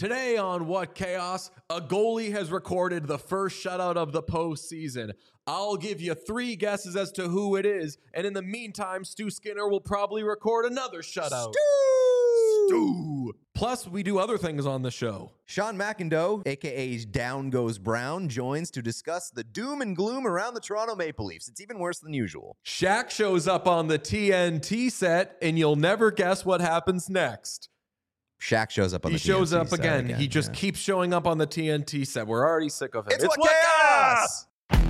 Today on What Chaos, a goalie has recorded the first shutout of the postseason. I'll give you 3 guesses as to who it is, and in the meantime, Stu Skinner will probably record another shutout. Stu! Plus, we do other things on the show. Sean McIndoe, a.k.a. Down Goes Brown, joins to discuss the doom and gloom around the Toronto Maple Leafs. It's even worse than usual. Shaq shows up on the TNT set, and you'll never guess what happens next. Shaq shows up on the TNT set. He shows up again. He just keeps showing up on the TNT set. We're already sick of him. It's What Chaos!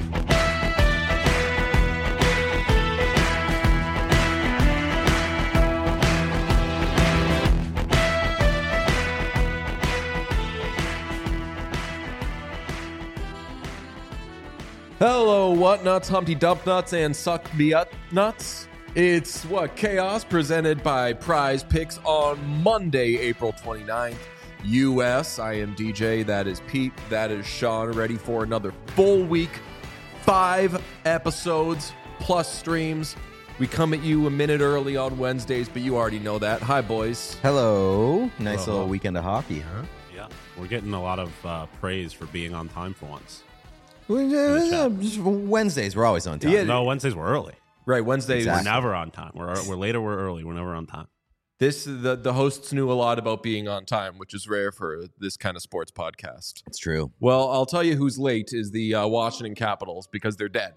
Hello, what nuts, Humpty Dump Nuts, and Suck Me Up Nuts. It's What Chaos, presented by Prize Picks on Monday, April 29th. US, I am DJ, that is Pete, that is Sean, ready for another full week. 5 episodes plus streams. We come at you a minute early on Wednesdays, but you already know that. Hi, boys. Hello. Nice little weekend of hockey, huh? Yeah, we're getting a lot of praise for being on time for once. Wednesdays, we're always on time. Yeah. No, Wednesdays we're early. Right, Wednesdays. Exactly. We're never on time. We're later, we're early. We're never on time. The hosts knew a lot about being on time, which is rare for this kind of sports podcast. It's true. Well, I'll tell you who's late is the Washington Capitals because they're dead.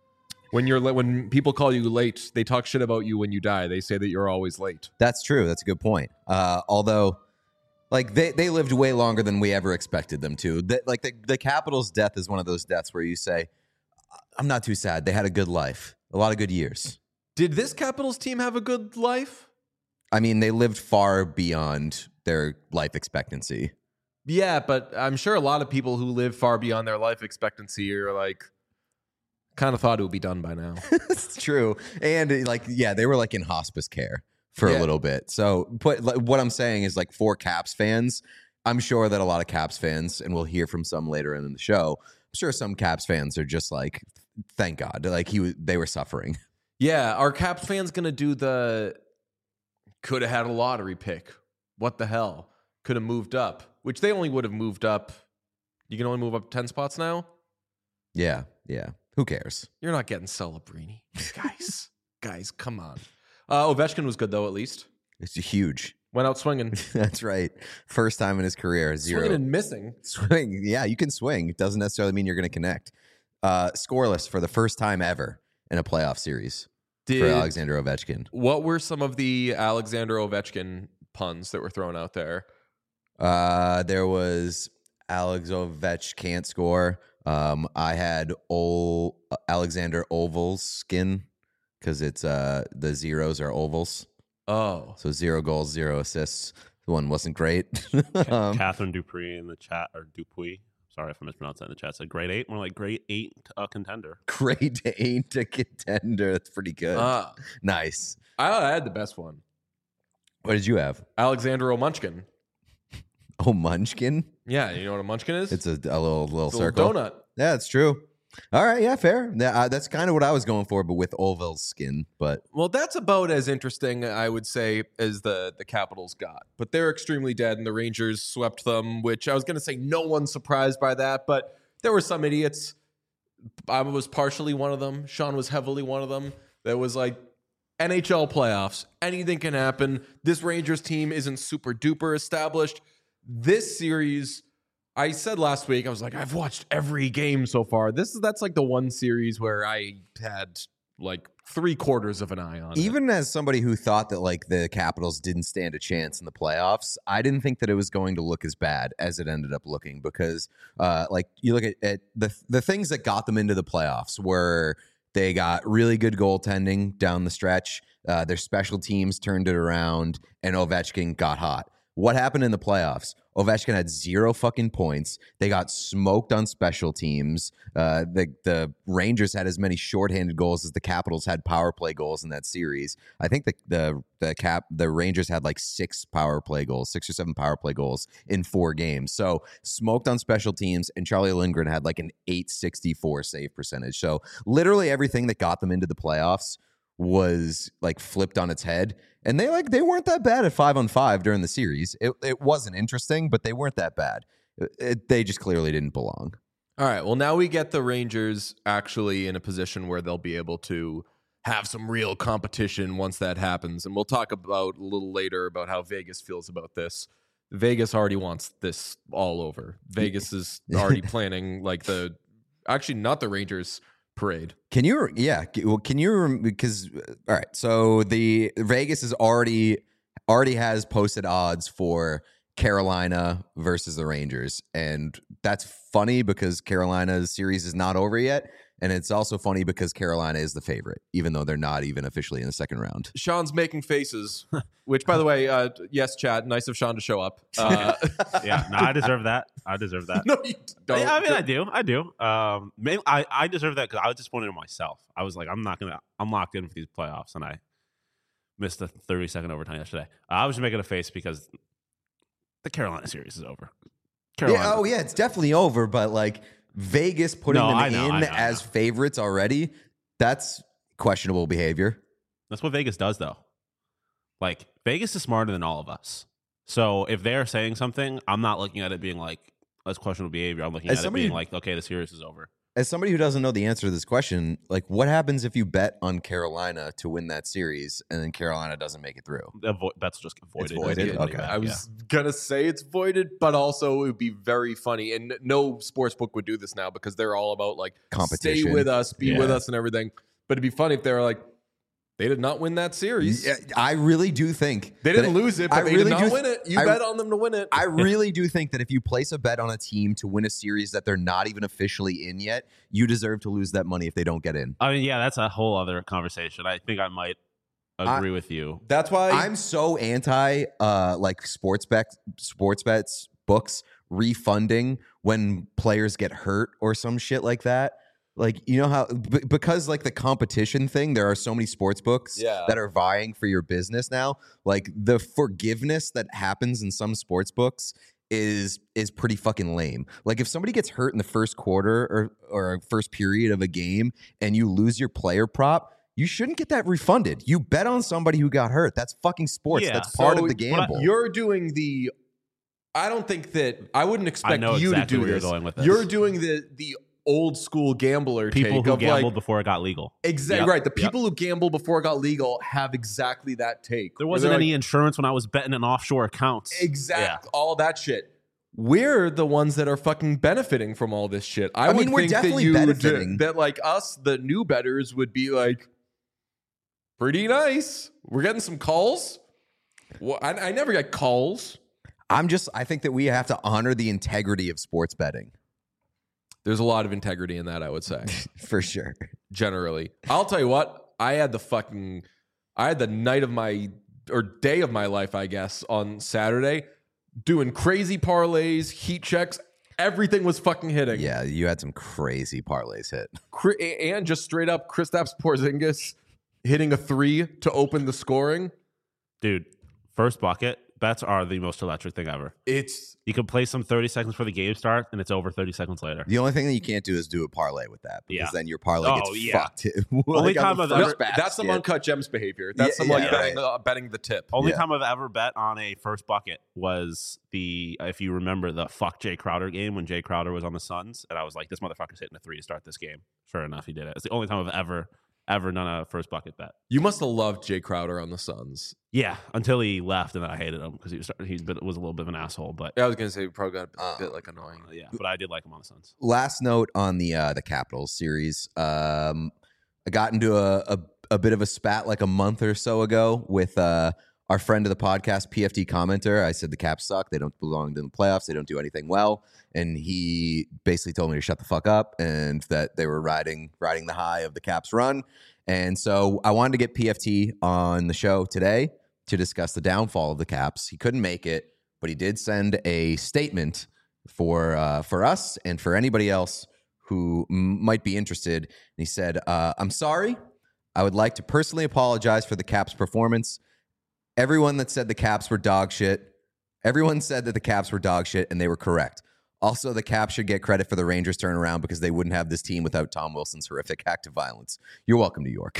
When people call you late, they talk shit about you when you die. They say that you're always late. That's true. That's a good point. Although, like, they lived way longer than we ever expected them to. The Capitals' death is one of those deaths where you say, I'm not too sad. They had a good life. A lot of good years. Did this Capitals team have a good life? I mean, they lived far beyond their life expectancy. Yeah, but I'm sure a lot of people who live far beyond their life expectancy are like, kind of thought it would be done by now. It's true. And they were like in hospice care for a little bit. So, but what I'm saying is, like, for Caps fans, I'm sure that a lot of Caps fans, and we'll hear from some later in the show, I'm sure some Caps fans are just like, thank God, like they were suffering. Yeah, are Caps fans going to do the could have had a lottery pick? What the hell? Could have moved up, which they only would have moved up. You can only move up 10 spots now? Yeah. Who cares? You're not getting Celebrini. Guys, come on. Ovechkin was good, though, at least. It's huge. Went out swinging. That's right. First time in his career, 0. Swinging and missing. Swing. Yeah, you can swing. It doesn't necessarily mean you're going to connect. Scoreless for the first time ever in a playoff series for Alexander Ovechkin. What were some of the Alexander Ovechkin puns that were thrown out there? There was Alex Ovechkin can't score. I had Alexander Oval's skin because it's the zeros are ovals. Oh. So 0 goals, 0 assists. The one wasn't great. Catherine Dupree in the chat, or Dupuis. Sorry if I mispronounced that in the chat. Said grade 8. More like grade 8 contender. Grade 8 to contender. That's pretty good. Nice. I had the best one. What did you have? Alexander O'Munchkin. Oh, Munchkin? Yeah, you know what a munchkin is? It's a little It's a circle. little donut. Yeah, it's true. All right, yeah, fair. That's kind of what I was going for, but with Oval's skin. But Well, that's about as interesting, I would say, as the Capitals got. But they're extremely dead, and the Rangers swept them, which I was going to say no one's surprised by that, but there were some idiots. I was partially one of them. Sean was heavily one of them. That was like, NHL playoffs, anything can happen. This Rangers team isn't super duper established. This series, I said last week, I was like, I've watched every game so far. That's like the one series where I had like 3/4 of an eye on it. even as somebody who thought that, like, the Capitals didn't stand a chance in the playoffs, I didn't think that it was going to look as bad as it ended up looking because, like, you look at the things that got them into the playoffs were they got really good goaltending down the stretch. Their special teams turned it around, and Ovechkin got hot. What happened in the playoffs? Ovechkin had 0 fucking points. They got smoked on special teams. The Rangers had as many shorthanded goals as the Capitals had power play goals in that series. I think the Rangers had like 6 power play goals, 6 or 7 power play goals in 4 games. So smoked on special teams, and Charlie Lindgren had like an .864 save percentage. So literally everything that got them into the playoffs was like flipped on its head. And they weren't that bad at 5-on-5 during the series. It wasn't interesting, but they weren't that bad. They just clearly didn't belong. All right. Well, now we get the Rangers actually in a position where they'll be able to have some real competition once that happens. And we'll talk about a little later about how Vegas feels about this. Vegas already wants this all over. Vegas is already planning like actually not the Rangers parade. Because all right, so the Vegas is already has posted odds for Carolina versus the Rangers, and that's funny because Carolina's series is not over yet, and it's also funny because Carolina is the favorite, even though they're not even officially in the second round. Sean's making faces, which, by the way, yes, Chad, nice of Sean to show up. Yeah, no, I deserve that. No, you don't. Yeah, I mean, I do. Maybe I deserve that because I was disappointed in myself. I was like, I'm locked in for these playoffs, and I missed the 30-second overtime yesterday. I was just making a face because the Carolina series is over. Yeah, it's definitely over, but like Vegas putting them as favorites already, that's questionable behavior. That's what Vegas does, though. Like, Vegas is smarter than all of us. So if they're saying something, I'm not looking at it being like, that's questionable behavior. I'm looking at it being like, okay, the series is over. As somebody who doesn't know the answer to this question, like, what happens if you bet on Carolina to win that series and then Carolina doesn't make it through? Bets just get voided. It's voided? Okay. I was going to say it's voided, but also it would be very funny. And no sportsbook would do this now because they're all about, like, competition. Stay with us, be with us and everything. But it'd be funny if they were like, they did not win that series. Yeah, I really do think they didn't lose it, but they did not win it. You bet on them to win it. I really do think that if you place a bet on a team to win a series that they're not even officially in yet, you deserve to lose that money if they don't get in. I mean, yeah, that's a whole other conversation. I think I might agree with you. That's why I'm so anti like sports bets books refunding when players get hurt or some shit like that. Like, you know how, because like the competition thing, there are so many sports books that are vying for your business now. Like the forgiveness that happens in some sports books is pretty fucking lame. Like if somebody gets hurt in the first quarter or first period of a game and you lose your player prop, you shouldn't get that refunded. You bet on somebody who got hurt. That's fucking sports. That's part of the gamble. You're doing the, I don't think that, I wouldn't expect you to do this. You're doing the old school gambler people take who of gambled like, before it got legal. Exactly right. The people who gambled before it got legal have exactly that take. There wasn't any insurance when I was betting in offshore accounts. Exactly. All that shit. We're the ones that are fucking benefiting from all this shit. I mean, we're definitely benefiting. That like us, the new bettors, would be like, pretty nice. We're getting some calls. Well, I never get calls. I think that we have to honor the integrity of sports betting. There's a lot of integrity in that, I would say. For sure. Generally. I'll tell you what, I had the night of my, or day of my life, I guess, on Saturday, doing crazy parlays, heat checks. Everything was fucking hitting. Yeah, you had some crazy parlays hit. And just straight up Kristaps Porzingis hitting a 3 to open the scoring. Dude, first bucket. Bets are the most electric thing ever. You can play some 30 seconds before the game starts, and it's over 30 seconds later. The only thing that you can't do is do a parlay with that, because then your parlay gets fucked. Only time I've ever that's some uncut gems behavior. That's some betting the tip. Only time I've ever bet on a first bucket was if you remember the fuck Jay Crowder game when Jay Crowder was on the Suns, and I was like, this motherfucker's hitting a 3 to start this game. Sure enough, he did it. It's the only time I've ever done a first bucket bet. You must have loved Jay Crowder on the Suns. Yeah, until he left, and then I hated him because he was a little bit of an asshole. But I was gonna say he probably got a bit like annoying. Yeah, but I did like him on the Suns. Last note on the Capitals series. I got into a bit of a spat like a month or so ago with our friend of the podcast, PFT commenter. I said the Caps suck. They don't belong in the playoffs. They don't do anything well. And he basically told me to shut the fuck up and that they were riding the high of the Caps run. And so I wanted to get PFT on the show today to discuss the downfall of the Caps. He couldn't make it, but he did send a statement for us and for anybody else who might be interested. And he said, I'm sorry. I would like to personally apologize for the Caps' performance. Everyone that said the Caps were dog shit, everyone said that the Caps were dog shit, and they were correct. Also, the Caps should get credit for the Rangers turnaround because they wouldn't have this team without Tom Wilson's horrific act of violence. You're welcome, New York.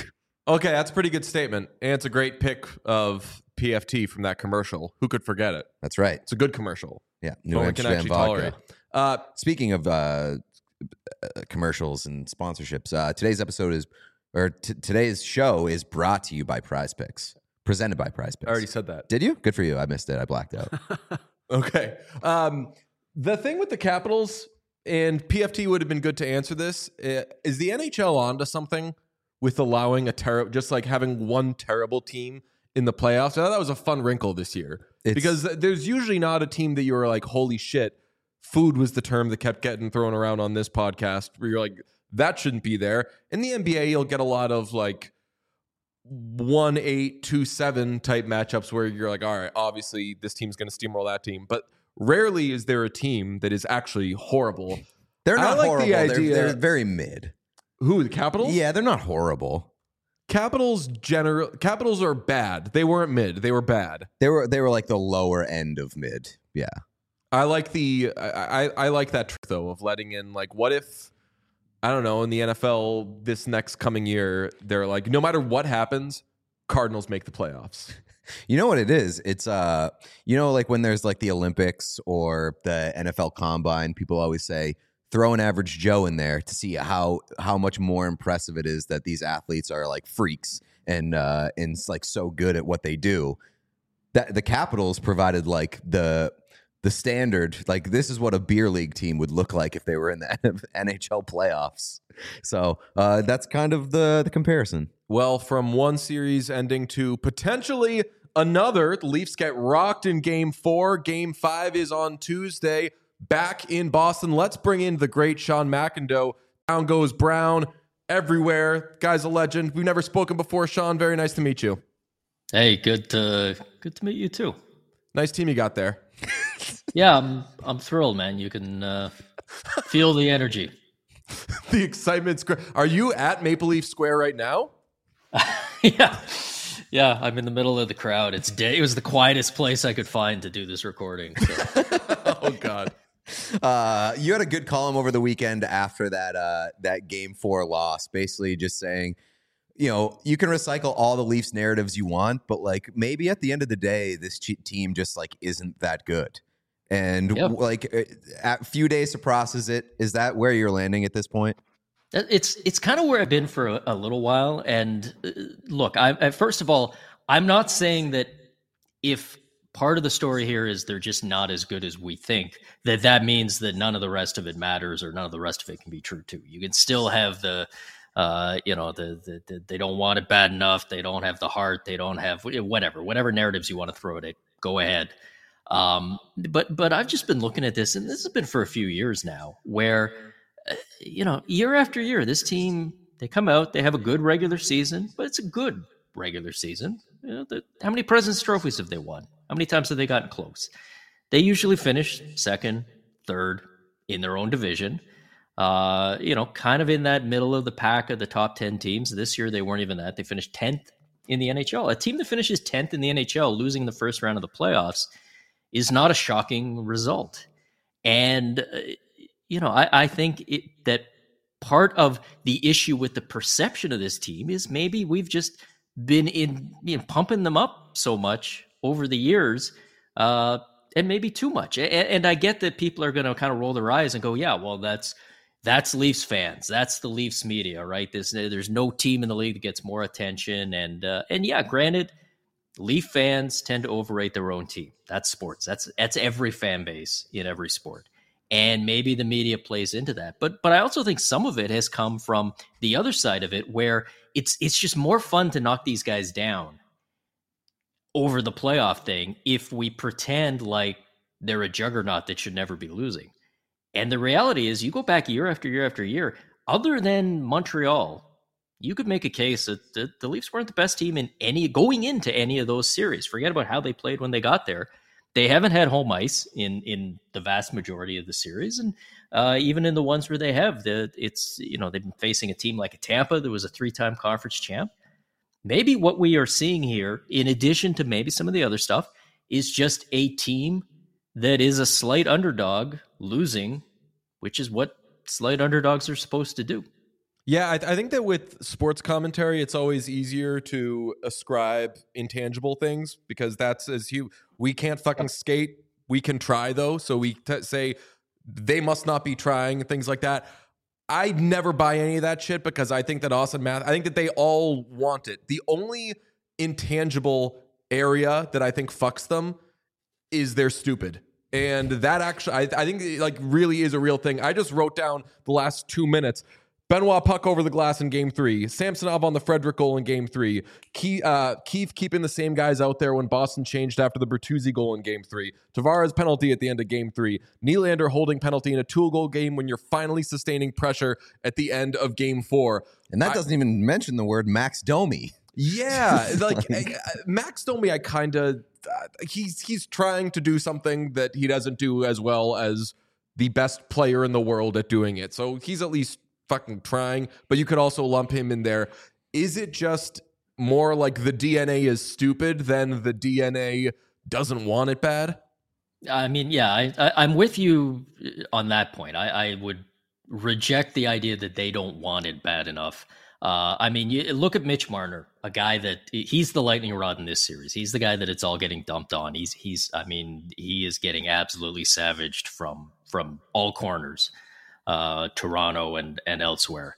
Okay, that's a pretty good statement. And it's a great pick of PFT from that commercial. Who could forget it? That's right. It's a good commercial. Yeah, New One we can Amsterdam actually vodka. tolerate. Speaking of commercials and sponsorships, today's show is brought to you by Prize Picks, presented by Prize Picks. I already said that. Did you? Good for you. I missed it. I blacked out. Okay. The thing with the Capitals, and PFT would have been good to answer this, is the NHL onto something with allowing just like having one terrible team in the playoffs? I thought that was a fun wrinkle this year because there's usually not a team that you were like, holy shit, food was the term that kept getting thrown around on this podcast where you're like, that shouldn't be there. In the NBA, you'll get a lot of like 1-8, 2-7 type matchups where you're like, all right, obviously this team's going to steamroll that team. But rarely is there a team that is actually horrible. They're not like horrible. The idea, they're very mid. Who, the Capitals? Yeah, they're not horrible. Capitals are bad. They weren't mid. They were bad. They were like the lower end of mid. Yeah. I like I like that trick though of letting in like, what if, I don't know, in the NFL this next coming year, they're like, no matter what happens, Cardinals make the playoffs. You know what it is? It's like when there's like the Olympics or the NFL Combine, people always say throw an average Joe in there to see how much more impressive it is that these athletes are like freaks and like so good at what they do. That the Capitals provided like the standard, like this is what a beer league team would look like if they were in the NHL playoffs. So that's kind of the comparison. Well, from one series ending to potentially another, the Leafs get rocked in Game 4. Game 5 is on Tuesday, back in Boston. Let's bring in the great Sean McIndoe. Down goes Brown everywhere. Guy's a legend. We've never spoken before, Sean. Very nice to meet you. Hey, good to meet you too. Nice team you got there. Yeah, I'm thrilled, man. You can feel the energy. The excitement's great. Are you at Maple Leaf Square right now? Yeah, I'm in the middle of the crowd. It was the quietest place I could find to do this recording. So. Oh God. You had a good column over the weekend after that Game 4 loss, basically just saying, you know, you can recycle all the Leafs narratives you want, but like maybe at the end of the day, this team just like isn't that good. And like a few days to process it, is that where you're landing at this point? It's kind of where I've been for a little while. And look, first of all, I'm not saying that if part of the story here is they're just not as good as we think, that means that none of the rest of it matters or none of the rest of it can be true too. You can still have the they don't want it bad enough. They don't have the heart. They don't have whatever narratives you want to throw at it. Go ahead. But I've just been looking at this, and this has been for a few years now, where year after year, this team, they come out, they have a good regular season, but it's a good regular season. How many President's Trophies have they won? How many times have they gotten close? They usually finish second, third in their own division. Kind of in that middle of the pack of the top 10 teams. This year, they weren't even that. They finished 10th in the NHL. A team that finishes 10th in the NHL, losing the first round of the playoffs, is not a shocking result. And, I think that part of the issue with the perception of this team is maybe we've just been pumping them up so much over the years, and maybe too much. And I get that people are going to kind of roll their eyes and go, yeah, well, that's Leafs fans. That's the Leafs media, right? There's no team in the league that gets more attention. And yeah, granted, Leaf fans tend to overrate their own team. That's sports. That's every fan base in every sport. And maybe the media plays into that. But I also think some of it has come from the other side of it, where it's just more fun to knock these guys down over the playoff thing if we pretend like they're a juggernaut that should never be losing. And the reality is, you go back year after year after year, other than Montreal, you could make a case that the Leafs weren't the best team going into any of those series. Forget about how they played when they got there. They haven't had home ice in the vast majority of the series. And even in the ones where they have, they've been facing a team like a Tampa that was a 3-time conference champ. Maybe what we are seeing here, in addition to maybe some of the other stuff, is just a team that is a slight underdog losing, which is what slight underdogs are supposed to do. Yeah, I think that with sports commentary, it's always easier to ascribe intangible things because that's we can't fucking skate. We can try though, so we say they must not be trying, things like that. I never buy any of that shit because I think that Austin Matthews, I think that they all want it. The only intangible area that I think fucks them is they're stupid. And that actually, I think like really is a real thing. I just wrote down the last 2 minutes. Benoit puck over the glass in game 3. Samsonov on the Frederick goal in game 3. Keefe keeping the same guys out there when Boston changed after the Bertuzzi goal in game 3. Tavares penalty at the end of game 3. Nylander holding penalty in a 2-goal game when you're finally sustaining pressure at the end of game 4. And that doesn't even mention the word Max Domi. Yeah, like Max Domi, I kind of he's trying to do something that he doesn't do as well as the best player in the world at doing it. So he's at least fucking trying, but you could also lump him in there. Is it just more like the DNA is stupid than the DNA doesn't want it bad? I mean, yeah, I'm with you on that point. I would reject the idea that they don't want it bad enough. I mean, you look at Mitch Marner, a guy that he's the lightning rod in this series. He's the guy that it's all getting dumped on. I mean, he is getting absolutely savaged from all corners. Toronto and elsewhere.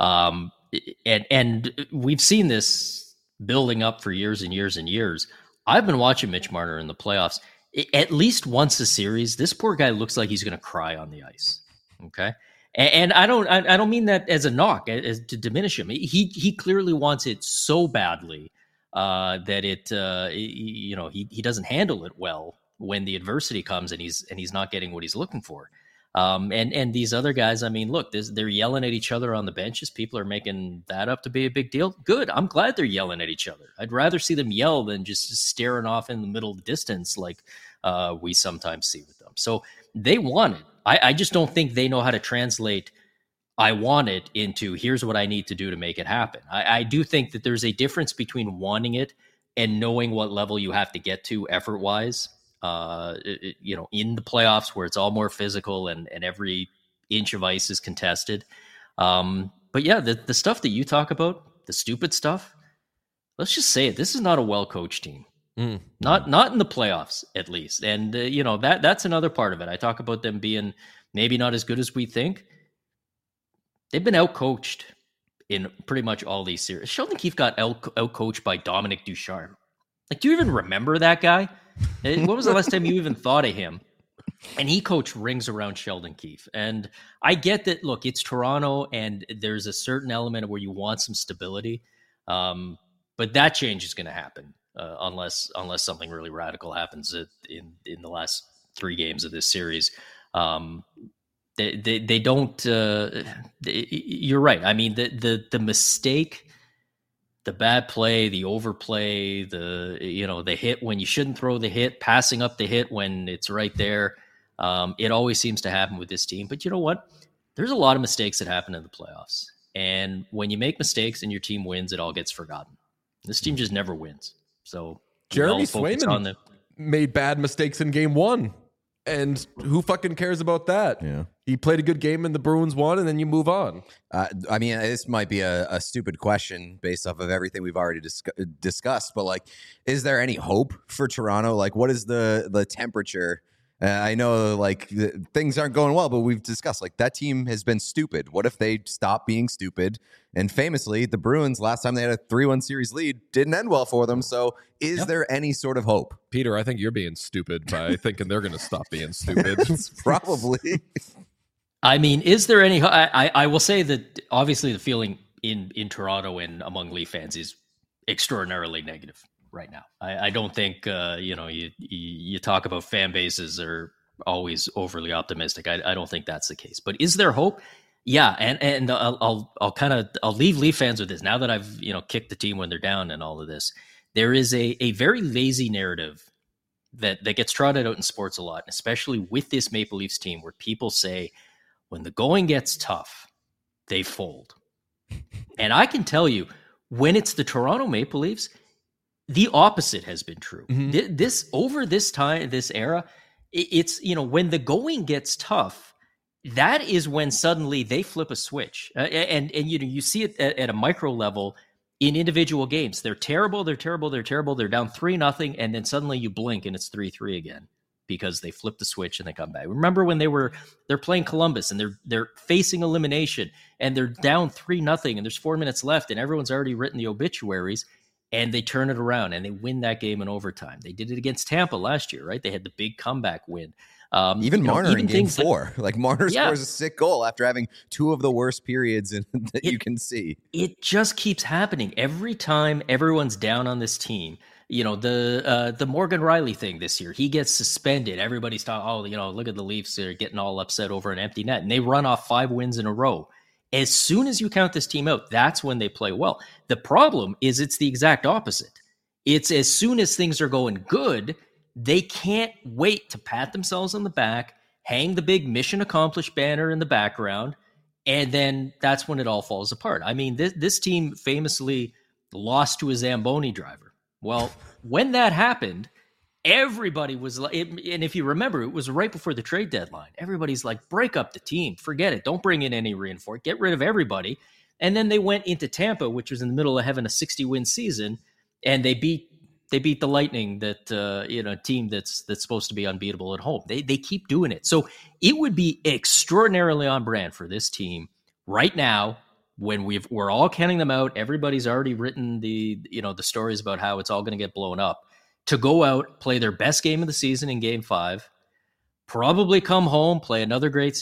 And we've seen this building up for years and years and years. I've been watching Mitch Marner in the playoffs. At least once a series, this poor guy looks like he's going to cry on the ice. Okay. And I don't mean that as a knock, as to diminish him. He clearly wants it so badly that he doesn't handle it well when the adversity comes and he's not getting what he's looking for. And these other guys, I mean, look, they're yelling at each other on the benches. People are making that up to be a big deal. Good. I'm glad they're yelling at each other. I'd rather see them yell than just staring off in the middle of the distance like we sometimes see with them. So they want it. I just don't think they know how to translate I want it into here's what I need to do to make it happen. I do think that there's a difference between wanting it and knowing what level you have to get to effort-wise. In the playoffs where it's all more physical and every inch of ice is contested. But yeah, the stuff that you talk about, the stupid stuff, let's just say it. This is not a well-coached team. Not in the playoffs, at least. And, that's another part of it. I talk about them being maybe not as good as we think. They've been out-coached in pretty much all these series. Sheldon Keefe got out-coached by Dominic Ducharme. Like, do you even remember that guy? When was the last time you even thought of him? And he coached rings around Sheldon Keefe. And I get that, look, it's Toronto and there's a certain element where you want some stability. But that change is going to happen unless something really radical happens in the last 3 games of this series. They don't, you're right. I mean, the mistake, the bad play, the overplay, the hit when you shouldn't throw the hit, passing up the hit when it's right there. It always seems to happen with this team. But you know what? There's a lot of mistakes that happen in the playoffs. And when you make mistakes and your team wins, it all gets forgotten. This team just never wins. So Jeremy Swayman made bad mistakes in game 1. And who fucking cares about that? Yeah. He played a good game and the Bruins won, and then you move on. I mean, this might be a stupid question based off of everything we've already discussed, but like, is there any hope for Toronto? Like, what is the temperature? I know like things aren't going well, but we've discussed like that team has been stupid. What if they stop being stupid? And famously, the Bruins last time they had a 3-1 series lead didn't end well for them. So is there any sort of hope? Peter, I think you're being stupid by thinking they're going to stop being stupid. Probably. I mean, is there any? I will say that obviously the feeling in Toronto and among Leaf fans is extraordinarily negative right now. I don't think you talk about fan bases are always overly optimistic. I don't think that's the case. But is there hope? Yeah, and I'll leave Leaf fans with this. Now that I've kicked the team when they're down and all of this, there is a very lazy narrative that gets trotted out in sports a lot, especially with this Maple Leafs team, where people say when the going gets tough, they fold. And I can tell you, when it's the Toronto Maple Leafs, the opposite has been true. Mm-hmm. This era, it's when the going gets tough, that is when suddenly they flip a switch, and you see it at a micro level in individual games. They're terrible, they're terrible, they're terrible. They're down 3-0, and then suddenly you blink and it's 3-3 again because they flip the switch and they come back. Remember when they're playing Columbus and they're facing elimination and they're down 3-0 and there's 4 minutes left and everyone's already written the obituaries, and they turn it around and they win that game in overtime. They did it against Tampa last year, right? They had the big comeback win. Even Marner in game 4. Marner Yeah. scores a sick goal after having 2 of the worst periods that you can see. It just keeps happening every time everyone's down on this team. The Morgan Riley thing this year, he gets suspended. Everybody's talking, look at the Leafs, they're getting all upset over an empty net, and they run off 5 wins in a row. As soon as you count this team out, that's when they play well. The problem is it's the exact opposite. It's as soon as things are going good, they can't wait to pat themselves on the back, hang the big mission accomplished banner in the background, and then that's when it all falls apart. I mean, this team famously lost to a Zamboni driver. Well, when that happened, everybody was like, and if you remember, it was right before the trade deadline. Everybody's like, break up the team, forget it, don't bring in any reinforcement, get rid of everybody. And then they went into Tampa, which was in the middle of having a 60-win season, and they beat the Lightning, that a team that's supposed to be unbeatable at home. They keep doing it. So it would be extraordinarily on brand for this team right now when we're all counting them out. Everybody's already written the stories about how it's all going to get blown up, to go out, play their best game of the season in Game 5, probably come home, play another great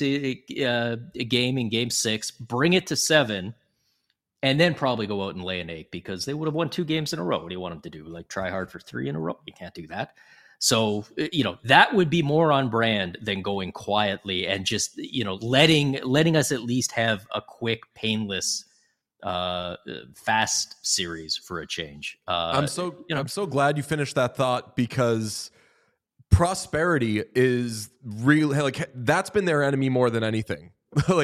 game in Game 6, bring it to 7. And then probably go out and lay an egg because they would have won 2 games in a row. What do you want them to do? Like try hard for 3 in a row? You can't do that. So, that would be more on brand than going quietly and just, letting us at least have a quick, painless, fast series for a change. I'm so glad you finished that thought, because prosperity is really that's been their enemy more than anything.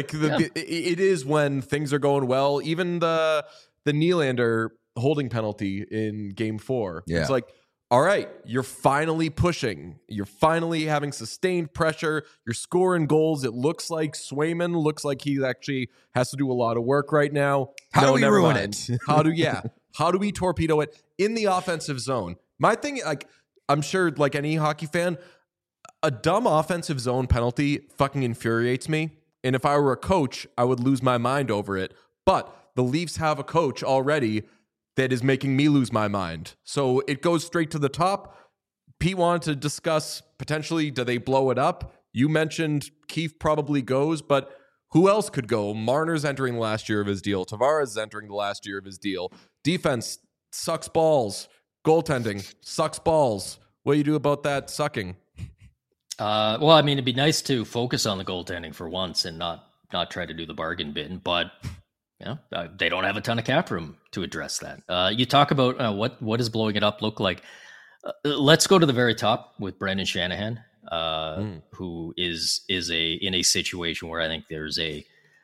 It is when things are going well. Even the Nylander holding penalty in Game 4. Yeah. It's like, all right, you're finally pushing. You're finally having sustained pressure. You're scoring goals. It looks like Swayman looks like he actually has to do a lot of work right now. How do we ruin it? How do we torpedo it in the offensive zone? My thing, I'm sure like any hockey fan, a dumb offensive zone penalty fucking infuriates me. And if I were a coach, I would lose my mind over it. But the Leafs have a coach already that is making me lose my mind. So it goes straight to the top. Pete wanted to discuss potentially, do they blow it up? You mentioned Keefe probably goes, but who else could go? Marner's entering the last year of his deal. Tavares is entering the last year of his deal. Defense sucks balls. Goaltending sucks balls. What do you do about that sucking? Well, I mean, it'd be nice to focus on the goaltending for once and not try to do the bargain bin, but they don't have a ton of cap room to address that. You talk about what does blowing it up look like? Let's go to the very top with Brendan Shanahan, who is in a situation where I think there's a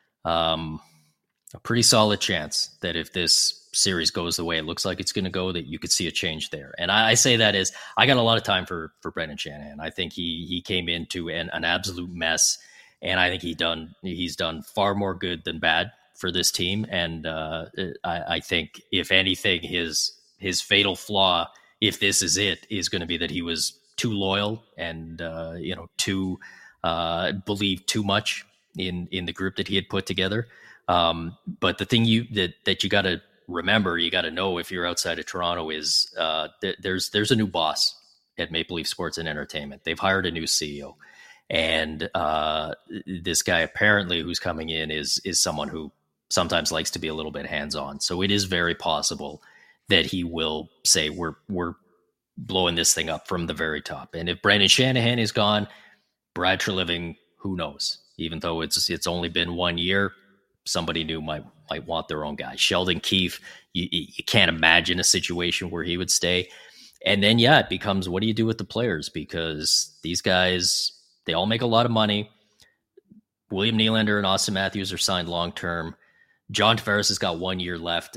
pretty solid chance that if this series goes the way it looks like it's going to go, that you could see a change there. And I say that as I got a lot of time for Brendan Shanahan. I think he came into an absolute mess, and I think he's done far more good than bad for this team. And I think if anything, his fatal flaw, if this is it, is going to be that he was too loyal and too believed too much in the group that he had put together. But the thing that you got to remember, you got to know if you're outside of Toronto is there's a new boss at Maple Leaf Sports and Entertainment. They've hired a new CEO, and this guy apparently who's coming in is someone who sometimes likes to be a little bit hands-on. So it is very possible that he will say we're blowing this thing up from the very top. And if Brendan Shanahan is gone, Brad Treliving, who knows? Even though it's only been 1 year, somebody new might want their own guy. Sheldon Keefe, you can't imagine a situation where he would stay. And then, it becomes, what do you do with the players? Because these guys, they all make a lot of money. William Nylander and Austin Matthews are signed long-term. John Tavares has got 1 year left.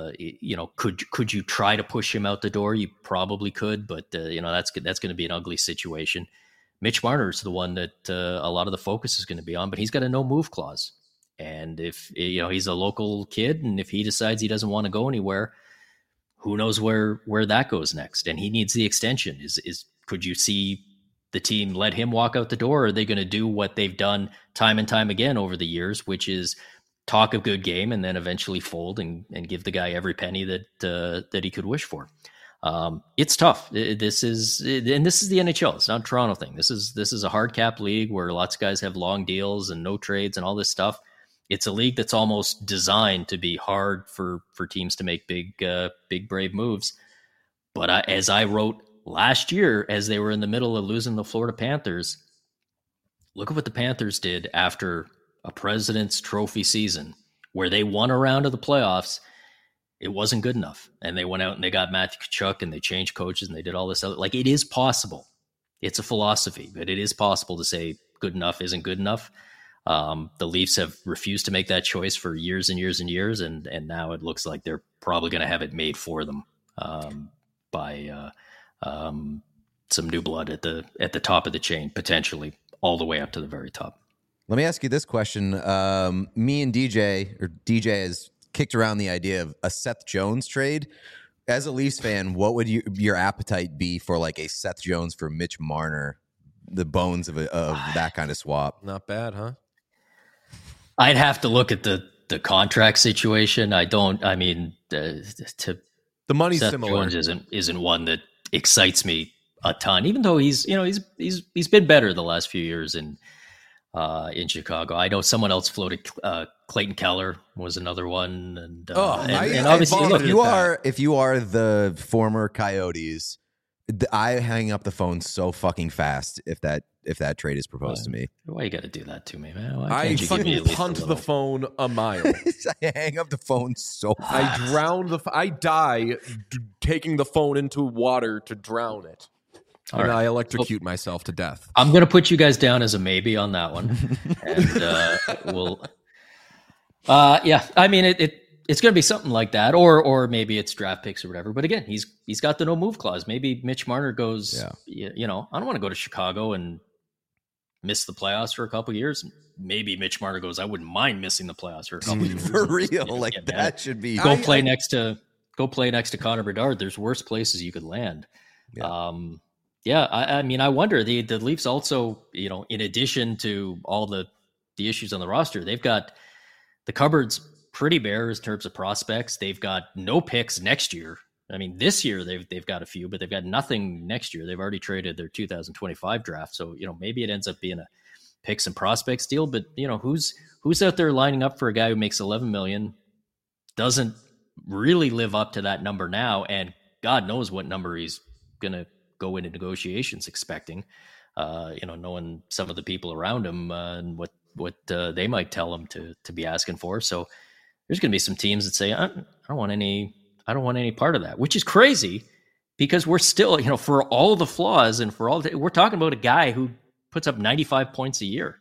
Could you try to push him out the door? You probably could, but that's going to be an ugly situation. Mitch Marner's the one that a lot of the focus is going to be on, but he's got a no move clause. And if he's a local kid, and if he decides he doesn't want to go anywhere, who knows where that goes next? And he needs the extension. Could you see the team let him walk out the door? Or are they going to do what they've done time and time again over the years, which is talk a good game and then eventually fold and give the guy every penny that he could wish for? It's tough. This is the NHL. It's not a Toronto thing. This is a hard cap league where lots of guys have long deals and no trades and all this stuff. It's a league that's almost designed to be hard for teams to make big brave moves. But as I wrote last year, as they were in the middle of losing the Florida Panthers, look at what the Panthers did after a President's Trophy season where they won a round of the playoffs. It wasn't good enough. And they went out and they got Matthew Tkachuk and they changed coaches and they did all this other. Like, it is possible. It's a philosophy, but it is possible to say good enough isn't good enough. The Leafs have refused to make that choice for years and years and years, and now it looks like they're probably going to have it made for them by some new blood at the top of the chain, potentially all the way up to the very top. Let me ask you this question. Me and DJ has kicked around the idea of a Seth Jones trade. As a Leafs fan, what would your appetite be for like a Seth Jones for Mitch Marner, the bones of that kind of swap? Not bad, huh? I'd have to look at the contract situation. The money's Seth similar. Jones isn't one that excites me a ton, even though he's been better the last few years in Chicago. I know someone else floated. Clayton Keller was another one, and obviously, look, if you are the former Coyotes, I hang up the phone so fucking fast if that trade is proposed to me. Why you got to do that to me, man? I fucking punt the phone a mile. I hang up the phone so fast. I die taking the phone into water to drown it. All and right. I electrocute myself to death. I'm going to put you guys down as a maybe on that one. And we'll... I mean, it's going to be something like that, or maybe it's draft picks or whatever. But again, he's got the no move clause. Maybe Mitch Marner goes, I don't want to go to Chicago and miss the playoffs for a couple of years. Maybe Mitch Marner goes, I wouldn't mind missing the playoffs for a couple of years. For real, that should be play next to Connor Bedard. There's worse places you could land. Yeah. I mean, I wonder the Leafs also, in addition to all the issues on the roster, they've got the cupboard's pretty bare in terms of prospects. They've got no picks next year. I mean, this year they've got a few, but they've got nothing next year. They've already traded their 2025 draft. So, maybe it ends up being a picks and prospects deal, but who's out there lining up for a guy who makes $11 million, doesn't really live up to that number now. And God knows what number he's going to go into negotiations expecting, knowing some of the people around him and what they might tell him to be asking for. So there's going to be some teams that say, I don't want any part of that, which is crazy because we're still, for all the flaws and for all, we're talking about a guy who puts up 95 points a year.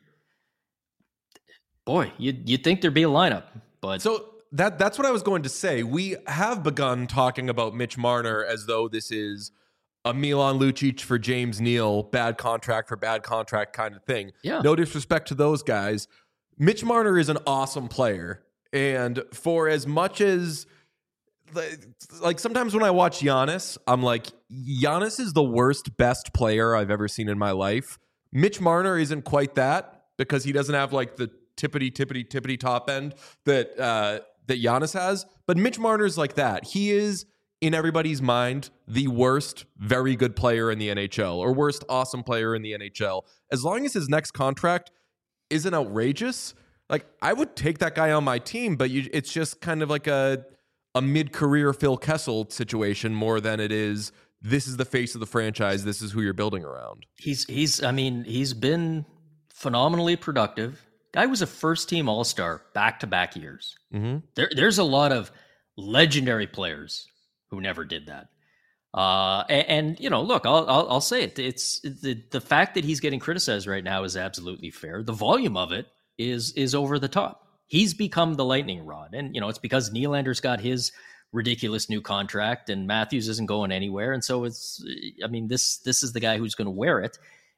Boy, you'd think there'd be a lineup, but so that's what I was going to say. We have begun talking about Mitch Marner as though this is a Milan Lucic for James Neal, bad contract for bad contract kind of thing. Yeah. No disrespect to those guys. Mitch Marner is an awesome player. And for as much as, like, sometimes when I watch Giannis, I'm like, Giannis is the worst, best player I've ever seen in my life. Mitch Marner isn't quite that because he doesn't have, like, the tippity top end that Giannis has. But Mitch Marner's like that. He is, in everybody's mind, the worst very good player in the NHL or worst awesome player in the NHL. As long as his next contract isn't outrageous, like, I would take that guy on my team, but it's just kind of like a mid-career Phil Kessel situation more than it is, this is the face of the franchise, this is who you're building around. He's been phenomenally productive. Guy was a first-team All-Star back-to-back years. Mm-hmm. There's a lot of legendary players who never did that. Look, I'll say it. It's the fact that he's getting criticized right now is absolutely fair. The volume of it is over the top. He's become the lightning rod. And, it's because Nylander's got his ridiculous new contract and Matthews isn't going anywhere. And so this is the guy who's going to wear it.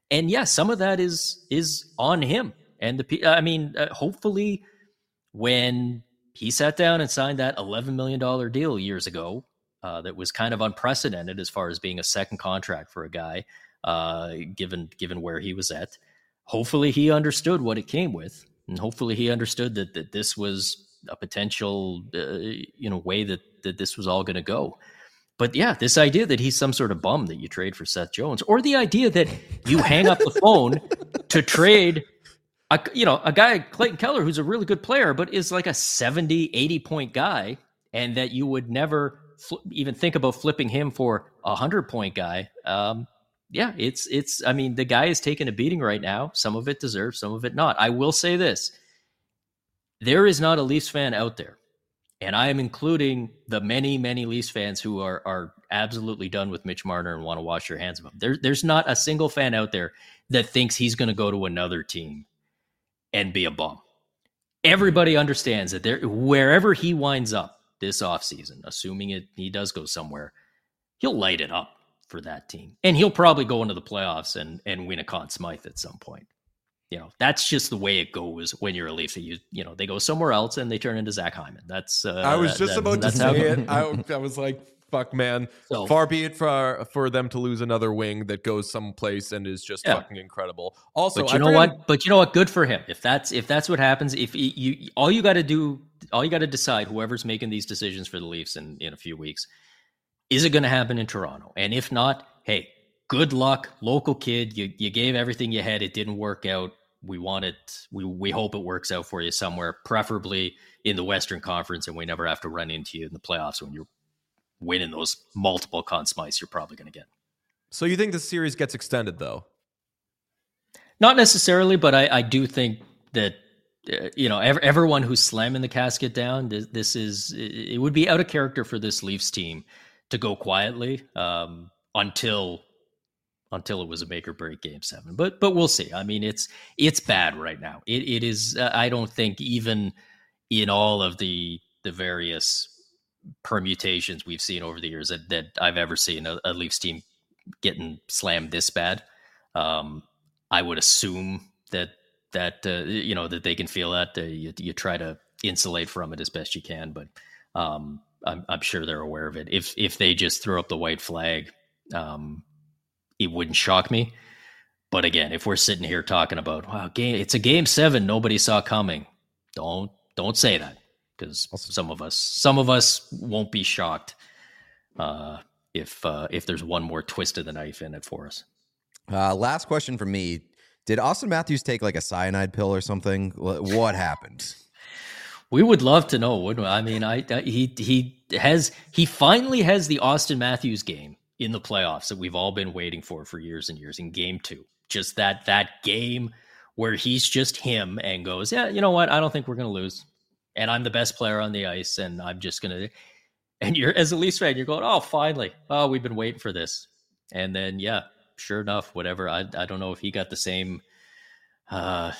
And yeah, some of that is on him. And hopefully when he sat down and signed that $11 million deal years ago, that was kind of unprecedented as far as being a second contract for a guy, given where he was at. Hopefully he understood what it came with, and hopefully he understood that this was a potential, way that this was all going to go. But yeah, this idea that he's some sort of bum that you trade for Seth Jones, or the idea that you hang up the phone to trade a guy like Clayton Keller, who's a really good player, but is like a 70, 80 point guy, and that you would never even think about flipping him for a 100-point guy. The guy is taking a beating right now. Some of it deserved, some of it not. I will say this. There is not a Leafs fan out there, and I am including the many, many Leafs fans who are absolutely done with Mitch Marner and want to wash their hands of him. There's not a single fan out there that thinks he's going to go to another team and be a bum. Everybody understands that wherever he winds up this offseason, assuming he does go somewhere, he'll light it up for that team. And he'll probably go into the playoffs and win a Conn Smythe at some point. That's just the way it goes when you're a Leaf. They go somewhere else and they turn into Zach Hyman. That's I was just about to say it. I was like, fuck, man. So, far be it for them to lose another wing that goes someplace and is just fucking incredible. Also, but you know what? Good for him. If that's what happens, if all you got to decide, whoever's making these decisions for the Leafs in a few weeks, is it going to happen in Toronto? And if not, hey, good luck, local kid. You gave everything you had. It didn't work out. We hope it works out for you somewhere, preferably in the Western Conference, and we never have to run into you in the playoffs when you're winning those multiple Conn Smythes you're probably going to get. So you think the series gets extended, though? Not necessarily, but I do think that everyone who's slamming the casket down, it would be out of character for this Leafs team to go quietly until it was a make or break Game 7. But we'll see. I mean, it's bad right now. It is. I don't think even in all of the various permutations we've seen over the years that I've ever seen a Leafs team getting slammed this bad. I would assume that they can feel that. You try to insulate from it as best you can, but I'm sure they're aware of it. If they just throw up the white flag, it wouldn't shock me. But again, if we're sitting here talking about, wow, it's a Game 7 nobody saw coming, don't say that, because some of us won't be shocked if there's one more twist of the knife in it for us. Last question from me: did Austin Matthews take like a cyanide pill or something? What happened? We would love to know, wouldn't we? I mean, he finally has the Austin Matthews game in the playoffs that we've all been waiting for years and years, in Game 2. Just that game where he's just him and goes, yeah, you know what? I don't think we're going to lose. And I'm the best player on the ice, and I'm just going to... And you're, as a Leafs fan, you're going, oh, finally. Oh, we've been waiting for this. And then, yeah, sure enough, whatever. I don't know if he got the same, I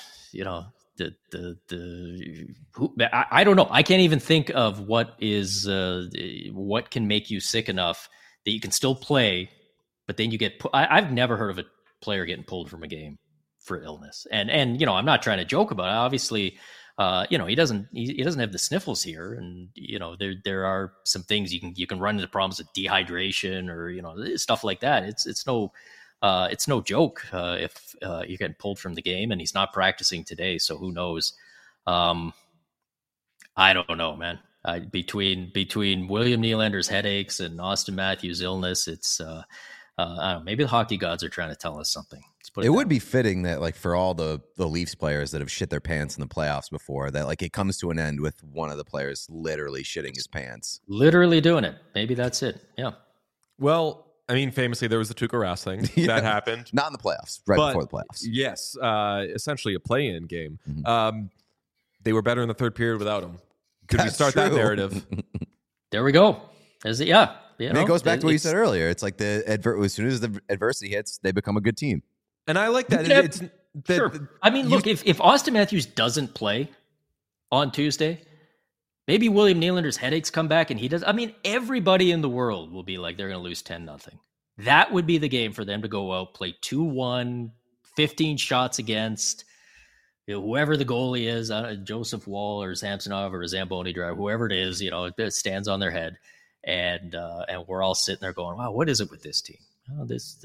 don't know. I can't even think of what can make you sick enough that you can still play, but then you get... I've never heard of a player getting pulled from a game for illness. And I'm not trying to joke about it. Obviously, he doesn't have the sniffles here, and there are some things you can run into problems with dehydration or stuff like that. It's no joke if you're getting pulled from the game, and he's not practicing today, so who knows? I don't know, man. Between William Nylander's headaches and Austin Matthews' illness, it's I don't know, maybe the hockey gods are trying to tell us something. It would be fitting that, like, for all the Leafs players that have shit their pants in the playoffs before, that like it comes to an end with one of the players literally shitting his pants, literally doing it. Maybe that's it. Yeah. Well, I mean, famously, there was the Tuukka Rask thing that happened. Not in the playoffs, before the playoffs. Yes, essentially a play-in game. Mm-hmm. They were better in the third period without him. Could we start that narrative? There we go. Is it? Yeah. It goes back to what you said earlier. It's like as soon as the adversity hits, they become a good team. And I like that. Sure. I mean, look, if Austin Matthews doesn't play on Tuesday, maybe William Nylander's headaches come back and he does. I mean, everybody in the world will be like, they're going to lose 10-0. That would be the game for them to go out, play 2-1, 15 shots against whoever the goalie is, Joseph Wall or Samsonov or Zamboni driver, whoever it is, it stands on their head, and we're all sitting there going, wow, what is it with this team? Oh,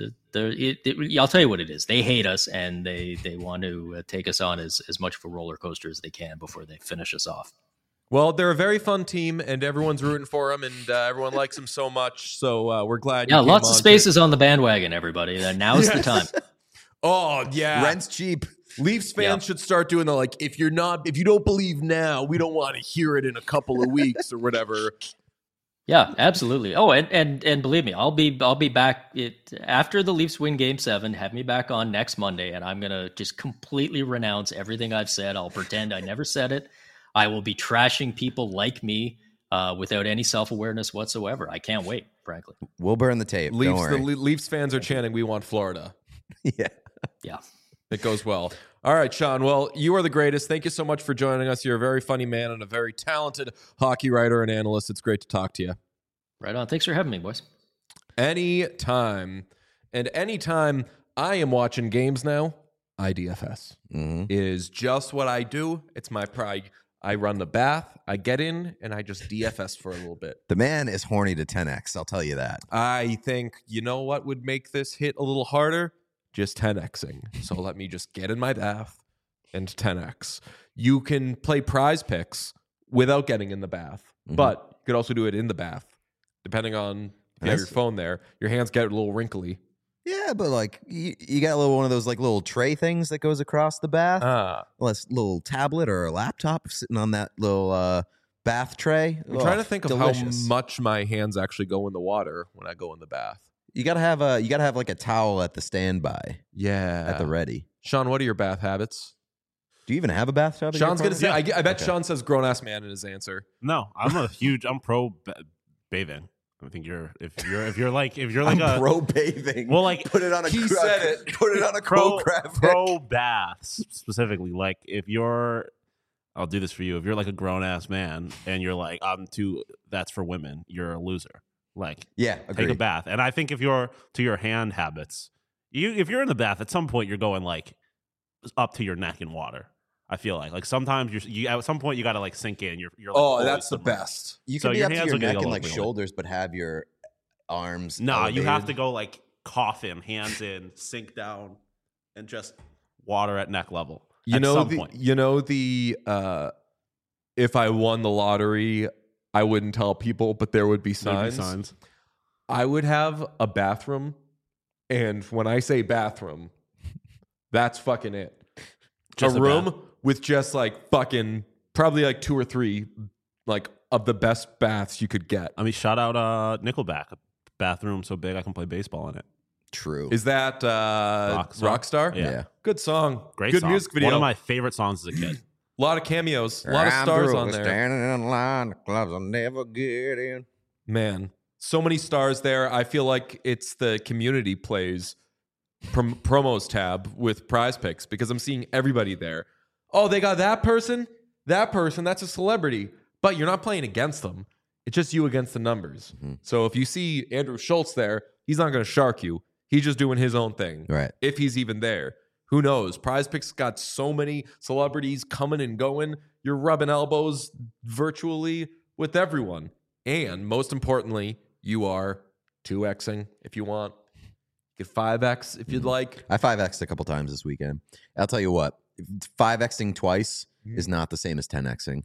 I'll tell you what it is. They hate us, and they want to take us on as much of a roller coaster as they can before they finish us off. Well, they're a very fun team, and everyone's rooting for them, and everyone likes them so much. So we're glad. Yeah, lots of spaces on the bandwagon, everybody. Now's the time. Oh yeah, Rent's cheap. Leafs fans should start doing the if you don't believe now, we don't want to hear it in a couple of weeks or whatever. Yeah, absolutely. Oh, and believe me, I'll be back after the Leafs win Game 7. Have me back on next Monday, and I'm gonna just completely renounce everything I've said. I'll pretend I never said it. I will be trashing people like me without any self-awareness whatsoever. I can't wait, frankly. We'll burn the tape. Don't worry. The Leafs fans are chanting, "We want Florida." Yeah. It goes well. All right, Sean. Well, you are the greatest. Thank you so much for joining us. You're a very funny man and a very talented hockey writer and analyst. It's great to talk to you. Right on. Thanks for having me, boys. Anytime. And anytime I am watching games now, IDFS is just what I do. It's my pride. I run the bath, I get in, and I just DFS for a little bit. The man is horny to 10x, I'll tell you that. I think, you know what would make this hit a little harder? Just 10xing. So let me just get in my bath and 10x. You can play prize picks without getting in the bath, but you could also do it in the bath, depending on if you have your phone there. Your hands get a little wrinkly. Yeah, but you got a little one of those little tray things that goes across the bath. A little tablet or a laptop sitting on that little bath tray. I'm trying to think of how much my hands actually go in the water when I go in the bath. You gotta have like a towel at the standby. Yeah, at the ready. Sean, what are your bath habits? Do you even have a bathtub? Sean's gonna say. I bet Sean says grown ass man in his answer. No, I'm pro bathing. I think if you're like I'm pro bathing. Well, put it on a said it. Put it on a pro graphic. Pro baths specifically. Like if you're, I'll do this for you. If you're like a grown ass man and you're like that's for women, you're a loser. Take a bath. And I think if you're to your hand habits, if you're in the bath at some point, you're going up to your neck in water. I feel like sometimes you at some point you got to sink in. You're that's the best. You can be up to your neck and shoulders, but have your arms. No, elevated. You have to go cough in, hands in, sink down, and just water at neck level. If I won the lottery, I wouldn't tell people, but there would be signs. I would have a bathroom, and when I say bathroom, that's fucking it. Just a room with just fucking probably 2 or 3 of the best baths you could get. I mean, shout out Nickelback, a bathroom so big I can play baseball in it. True. Is that Rockstar? Yeah. Good song. Good song. Music video. One of my favorite songs as a kid. A lot of cameos. A lot of stars on there. Standing in line, the clubs I'll never get in. Man, so many stars there. I feel like it's the community plays promos tab with prize picks because I'm seeing everybody there. Oh, they got that person, that's a celebrity, but you're not playing against them. It's just you against the numbers. So if you see Andrew Schultz there, he's not going to shark you. He's just doing his own thing. Right. If he's even there. Who knows? Prize Picks got so many celebrities coming and going. You're rubbing elbows virtually with everyone. And most importantly, you are 2xing if you want. You get 5x if you'd like. I 5x'd a couple times this weekend. I'll tell you what, 5xing twice is not the same as 10xing.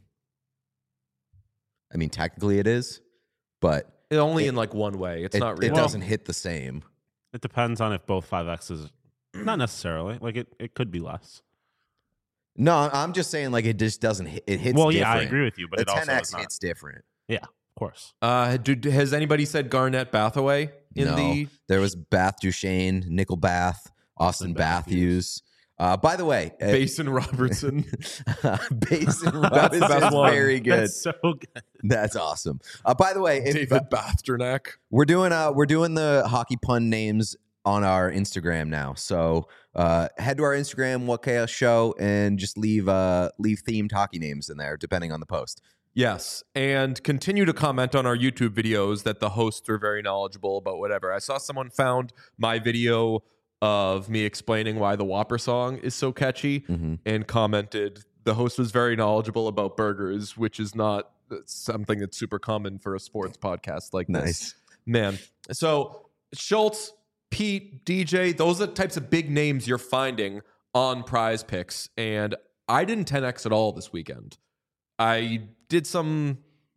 I mean, technically it is, but only in one way. It's not really. It doesn't hit the same. It depends on if both 5x's. Not necessarily. It could be less. No, I'm just saying it just doesn't hit. It hits well, different. Yeah, I agree with you, but the it also 10x hits different. Yeah, of course. Has anybody said Garnett Bathaway No. There was Bath Duchesne, Nickel Bath, Austin Matthews. By the way, Basin Robertson. Basin Robertson is very good. That's so good. That's awesome. By the way, David Basternak. We're doing the hockey pun names on our Instagram now. So head to our Instagram, What Chaos Show, and just leave themed hockey names in there, depending on the post. Yes, and continue to comment on our YouTube videos that the hosts are very knowledgeable about whatever. I saw someone found my video of me explaining why the Whopper song is so catchy and commented, the host was very knowledgeable about burgers, which is not something that's super common for a sports podcast like this. Nice. Man. So Schultz, Pete, DJ, those are the types of big names you're finding on Prize Picks. And I didn't 10X at all this weekend. I still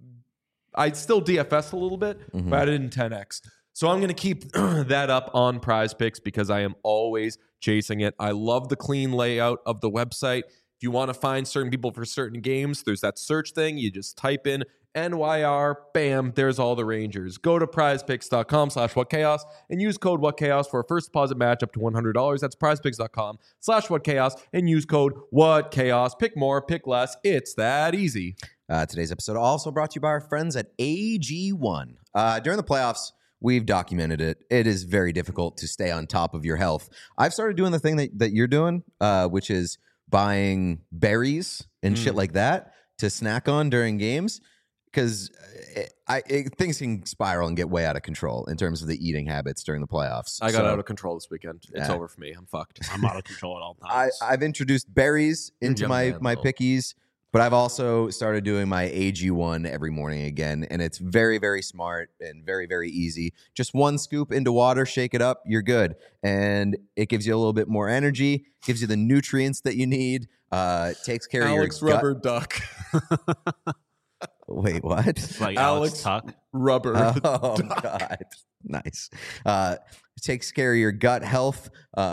DFS a little bit, but I didn't 10X. So I'm going to keep that up on Prize Picks because I am always chasing it. I love the clean layout of the website. If you want to find certain people for certain games, there's that search thing. You just type in NYR, bam, there's all the Rangers. Go to prizepicks.com/whatchaos and use code whatchaos for a first deposit match up to $100. That's prizepicks.com/whatchaos and use code whatchaos. Pick more, pick less. It's that easy. Today's episode also brought to you by our friends at AG1. During the playoffs, we've documented it. It is very difficult to stay on top of your health. I've started doing the thing that you're doing, which is buying berries and shit like that to snack on during games. Because things can spiral and get way out of control in terms of the eating habits during the playoffs. I got out of control this weekend. It's over for me. I'm fucked. I'm out of control at all times. I've introduced berries into young my man, though. pickies, but I've also started doing my AG1 every morning again, and it's very, very smart and very, very easy. Just one scoop into water, shake it up, you're good. And it gives you a little bit more energy, gives you the nutrients that you need, takes care Alex of your Rubber gut. Duck. Wait, what? Like Alex Alex Tuck. Rubber. Oh, God. Nice. It takes care of your gut health.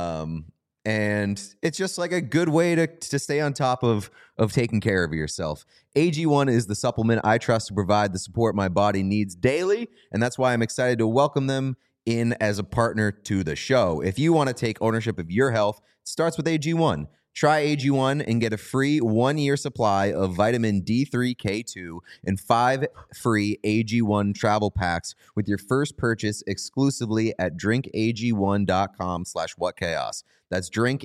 And it's just like a good way to stay on top of taking care of yourself. AG1 is the supplement I trust to provide the support my body needs daily. And that's why I'm excited to welcome them in as a partner to the show. If you want to take ownership of your health, it starts with AG1. Try AG1 and get a free 1-year supply of vitamin D3K2 and 5 free AG1 travel packs with your first purchase exclusively at drinkag1.com/whatchaos. That's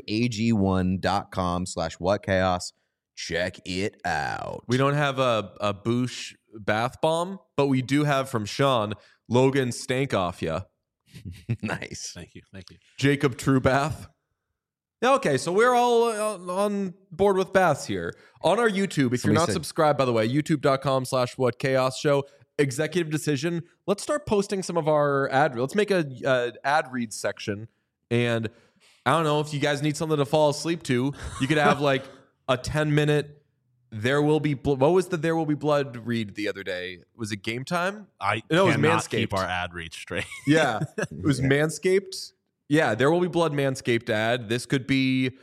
drinkag1.com/whatchaos. Check it out. We don't have a Boosh bath bomb, but we do have from Sean, Logan Stank Off Ya, Nice. Thank you. Jacob True Bath. Okay, so we're all on board with baths here. On our YouTube, if you're not subscribed, by the way, youtube.com/whatchaos show, executive decision. Let's start posting some of our ad. Let's make a ad read section. And I don't know if you guys need something to fall asleep to. You could have like a 10-minute There Will Be what was the There Will Be Blood read the other day? Was it Game Time? It was cannot Manscaped. keep our ad reach straight. Yeah, it was Manscaped. Yeah, There Will Be Blood Manscaped ad. This could be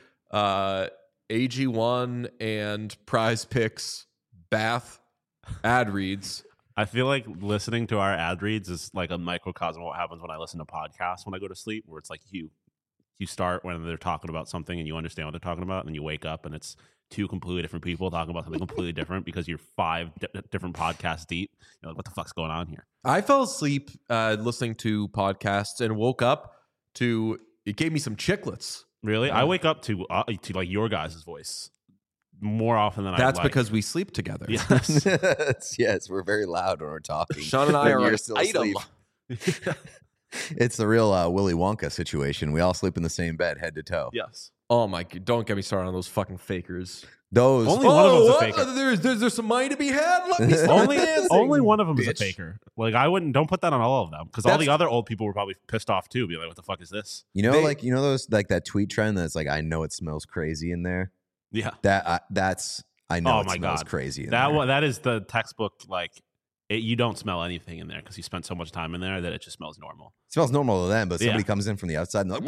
AG1 and Prize Picks bath ad reads. I feel like listening to our ad reads is like a microcosm of what happens when I listen to podcasts when I go to sleep, where it's like you start when they're talking about something and you understand what they're talking about, and then you wake up and it's two completely different people talking about something completely different because you're 5 different podcasts deep. You're like, what the fuck's going on here? I fell asleep listening to podcasts and woke up to it gave me some chiclets. Really? I wake up to like your guys' voice more often than That's I like. because we sleep together. Yes. Yes, we're very loud when we're talking. Sean and I When are you're an still item. asleep. It's the real Willy Wonka situation. We all sleep in the same bed, head to toe. Yes. Oh my god! Don't get me started on those fucking fakers. Those Only one of them's a what? faker. There's some money to be had. Let me start dancing. Only one of them is a bitch. faker. Like don't put that on all of them because all That's- the other old people were probably pissed off too. Be like, what the fuck is this? those like that tweet trend that's like, I know it smells crazy in there. Yeah. I know Oh it my smells God. crazy in That there. one, that is the textbook. Like you don't smell anything in there because you spent so much time in there that it just smells normal. It smells normal to them, but somebody Yeah. comes in from the outside and they're like,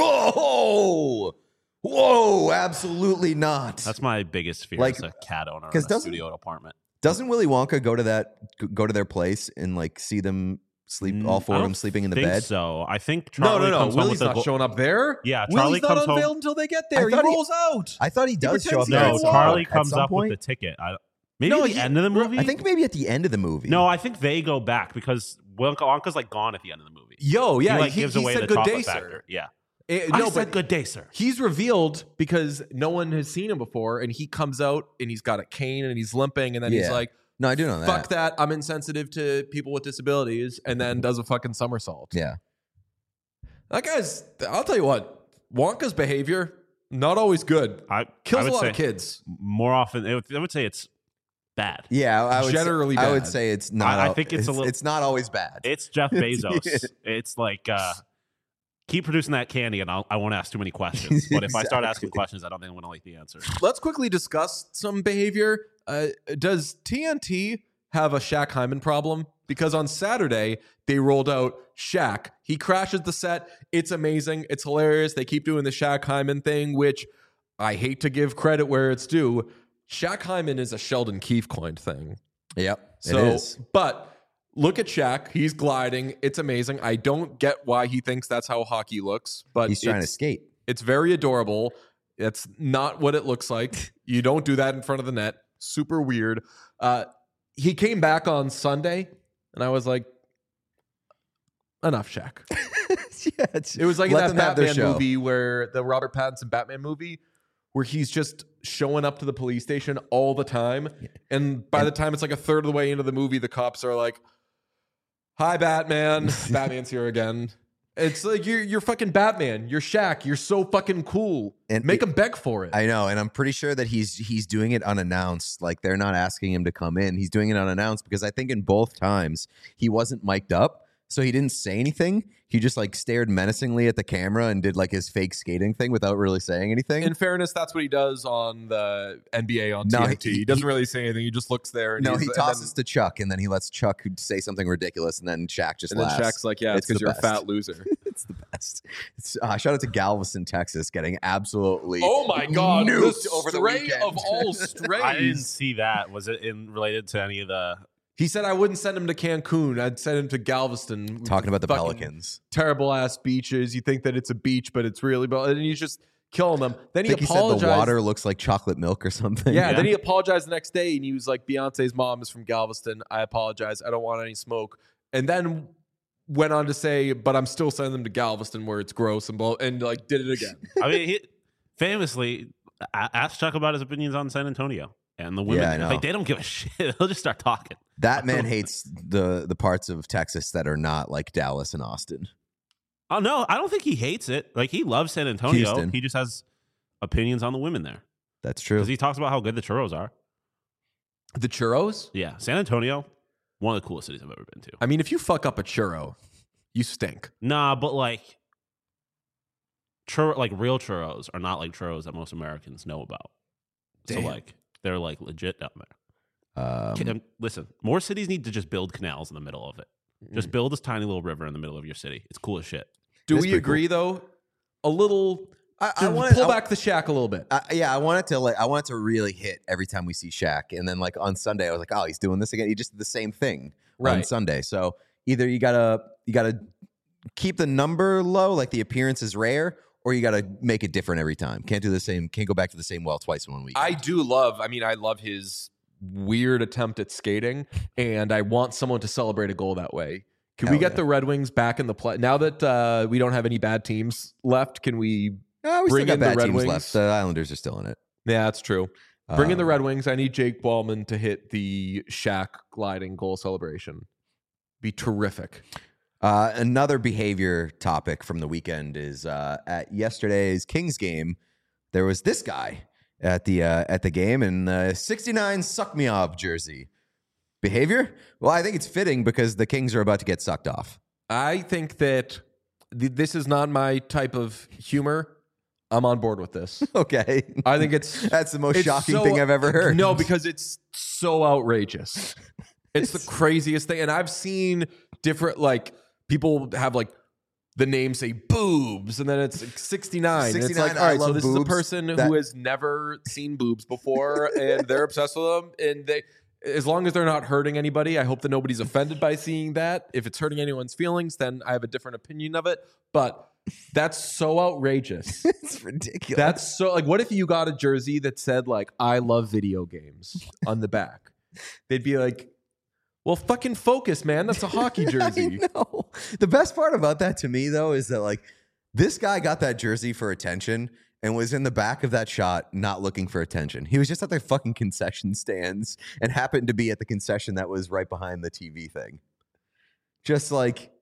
whoa, absolutely not. That's my biggest fear Like, as a cat owner in 'cause a doesn't- studio apartment. Doesn't Willy Wonka go to their place and like see them sleep, all four I of don't them sleeping in the think bed? So I think Charlie No. comes home Willie's with not the showing up there. Yeah, Charlie Willie's not comes home- unveiled until they get there. I He thought he- rolls out. I thought he does show up pretends there. he's at No, Yes. some- Charlie at comes some up point. with the ticket. Maybe No, at the end of the movie. I think maybe at the end of the movie. No, I think they go back because Wonka's like gone at the end of the movie. Yo, yeah, he like gives away said the good chocolate day, factor. sir. Yeah, No, I said but good day, sir. he's revealed because no one has seen him before, and he comes out and he's got a cane and he's limping, and then he's Yeah. like, No, I do know that. "Fuck that! I'm insensitive to people with disabilities," and then does a fucking somersault. Yeah. That guy's. I'll tell you what. Wonka's behavior, not always good. Kills a lot of kids. More often, I would say it's bad. Yeah, I would Generally say, I would bad. say it's not. I think it's a little. It's not always bad. It's Jeff Bezos. It's like keep producing that candy, and I won't ask too many questions. But if I start asking questions, I don't think I'm going to like the answer. Let's quickly discuss some behavior. Does TNT have a Shaq Hyman problem? Because on Saturday, they rolled out Shaq. He crashes the set. It's amazing. It's hilarious. They keep doing the Shaq Hyman thing, which I hate to give credit where it's due. Shaq Hyman is a Sheldon Keefe coined thing. Yep, So, it is. but look at Shaq. He's gliding. It's amazing. I don't get why he thinks that's how hockey looks, but He's trying to skate. it's very adorable. It's not what it looks like. You don't do that in front of the net. Super weird. He came back on Sunday, and I was like, enough, Shaq. Yeah, It was like in let that them have their Batman show. movie where the Robert Pattinson Batman movie where he's just showing up to the police station all the time. And by the time it's like a third of the way into the movie, the cops are like, hi, Batman. Batman's here again. It's like you're fucking Batman. You're Shaq. You're so fucking cool. And Make him beg for it. I know, and I'm pretty sure that he's doing it unannounced. Like they're not asking him to come in. He's doing it unannounced because I think in both times he wasn't mic'd up, so he didn't say anything. He just like stared menacingly at the camera and did like his fake skating thing without really saying anything. In fairness, that's what he does on the NBA on No, TNT. He doesn't really say anything. He just looks there. And No, he and tosses to Chuck, and then he lets Chuck say something ridiculous, and then Shaq just then, laughs. Shaq's like, yeah, it's because the you're a best. fat loser. It's the best. Shout out to Galveston, Texas, getting absolutely Oh my God. nuked The over the stray weekend. of all strays. I didn't see that. Was it related to any of the? He said I wouldn't send him to Cancun. I'd send him to Galveston. Talking about the Fucking Pelicans. Terrible ass beaches. You think that it's a beach, but it's really, and he's just killing them. Then I he think he said the apologized. water looks like chocolate milk or something. Yeah, Yeah. then he apologized the next day, and he was like, Beyonce's mom is from Galveston. I apologize. I don't want any smoke. And then went on to say, but I'm still sending them to Galveston where it's gross and like did it again. I mean, he famously asked Chuck about his opinions on San Antonio and the women. Yeah, I know. Like they don't give a shit. They'll just start talking. That man hates the parts of Texas that are not like Dallas and Austin. Oh no, I don't think he hates it. Like he loves San Antonio. Houston. He just has opinions on the women there That's true. because he talks about how good the churros are. The churros? Yeah, San Antonio, one of the coolest cities I've ever been to. I mean, if you fuck up a churro, you stink. Nah, but like real churros are not like churros that most Americans know about. Damn. So like they're like legit down there. Listen, more cities need to just build canals in the middle of it. Just build this tiny little river in the middle of your city. It's cool as shit. Do That's we pretty agree though? A little. I want pull back the Shaq a little bit. I want it to really hit every time we see Shaq. And then like on Sunday, I was like, oh, he's doing this again. He just did the same thing on Right. Sunday. So either you gotta keep the number low, like the appearance is rare, or you gotta make it different every time. Can't go back to the same well twice in 1 week. I love his weird attempt at skating, and I want someone to celebrate a goal that way. Can we Hell get yeah. the Red Wings back in the play? Now that we don't have any bad teams left, can we? We still bring got in the bad Red teams Wings. left. The Islanders are still in it. Yeah, that's true. Bring in the Um, Red Wings. I need Jake Ballman to hit the Shaq gliding goal celebration. Be terrific. Another behavior topic from the weekend is at yesterday's Kings game. There was this guy at the game in the 69 Suck Me Off jersey. Behavior? Well, I think it's fitting because the Kings are about to get sucked off. I think that this is not my type of humor. I'm on board with this. Okay, I think it's that's the most it's shocking so- thing I've ever heard. No, because it's so outrageous. It's the craziest thing. And I've seen different, like, people have, like, the name say boobs, and then it's like 69. And it's 69, like, all I right, so love this is a boobs. person That- who has never seen boobs before, and they're obsessed with them. And they, as long as they're not hurting anybody, I hope that nobody's offended by seeing that. If it's hurting anyone's feelings, then I have a different opinion of it. But that's so outrageous. It's ridiculous. That's so, like, what if you got a jersey that said, like, I love video games on the back? They'd be like, well, fucking focus, man. That's a hockey jersey. I know. The best part about that to me, though, is that like this guy got that jersey for attention and was in the back of that shot not looking for attention. He was just at their fucking concession stands and happened to be at the concession that was right behind the TV thing. Just like,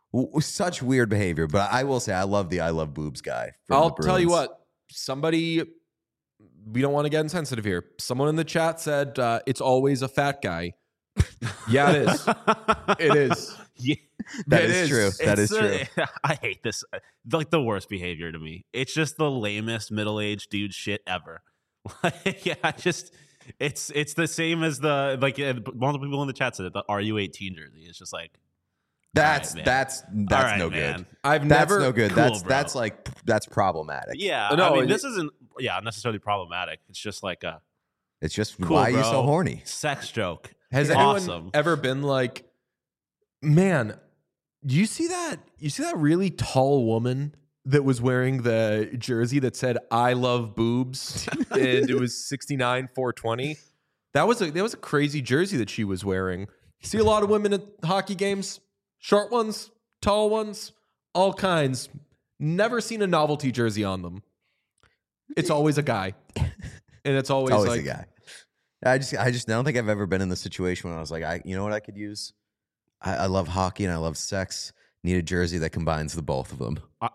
Such weird behavior, but I will say I love the I love boobs guy. From I'll the tell you Bruins. what, somebody, we don't want to get insensitive here. Someone in the chat said it's always a fat guy. Yeah, it is. It is. Yeah, That It is is. true. That is It's, true. I hate this. Like the worst behavior to me. It's just the lamest middle-aged dude shit ever. Like, yeah, it's the same as the multiple people in the chat said it. The RU18 jersey. It's just like That's man. that's all right, no man. good. I've That's never. no good. Cool, that's bro. that's problematic. Yeah, No, I mean it- this isn't necessarily problematic. It's just like a It's just cool, why are you so bro. horny? sex joke. Has Awesome. anyone ever been like, man, you see that? You see that really tall woman that was wearing the jersey that said "I love boobs" and it was 69,420. That was a crazy jersey that she was wearing. You see a lot of women at hockey games, short ones, tall ones, all kinds. Never seen a novelty jersey on them. It's always a guy, and it's always, Always like a guy. I don't think I've ever been in the situation when I was like, you know what I could use? I love hockey and I love sex. Need a jersey that combines the both of them.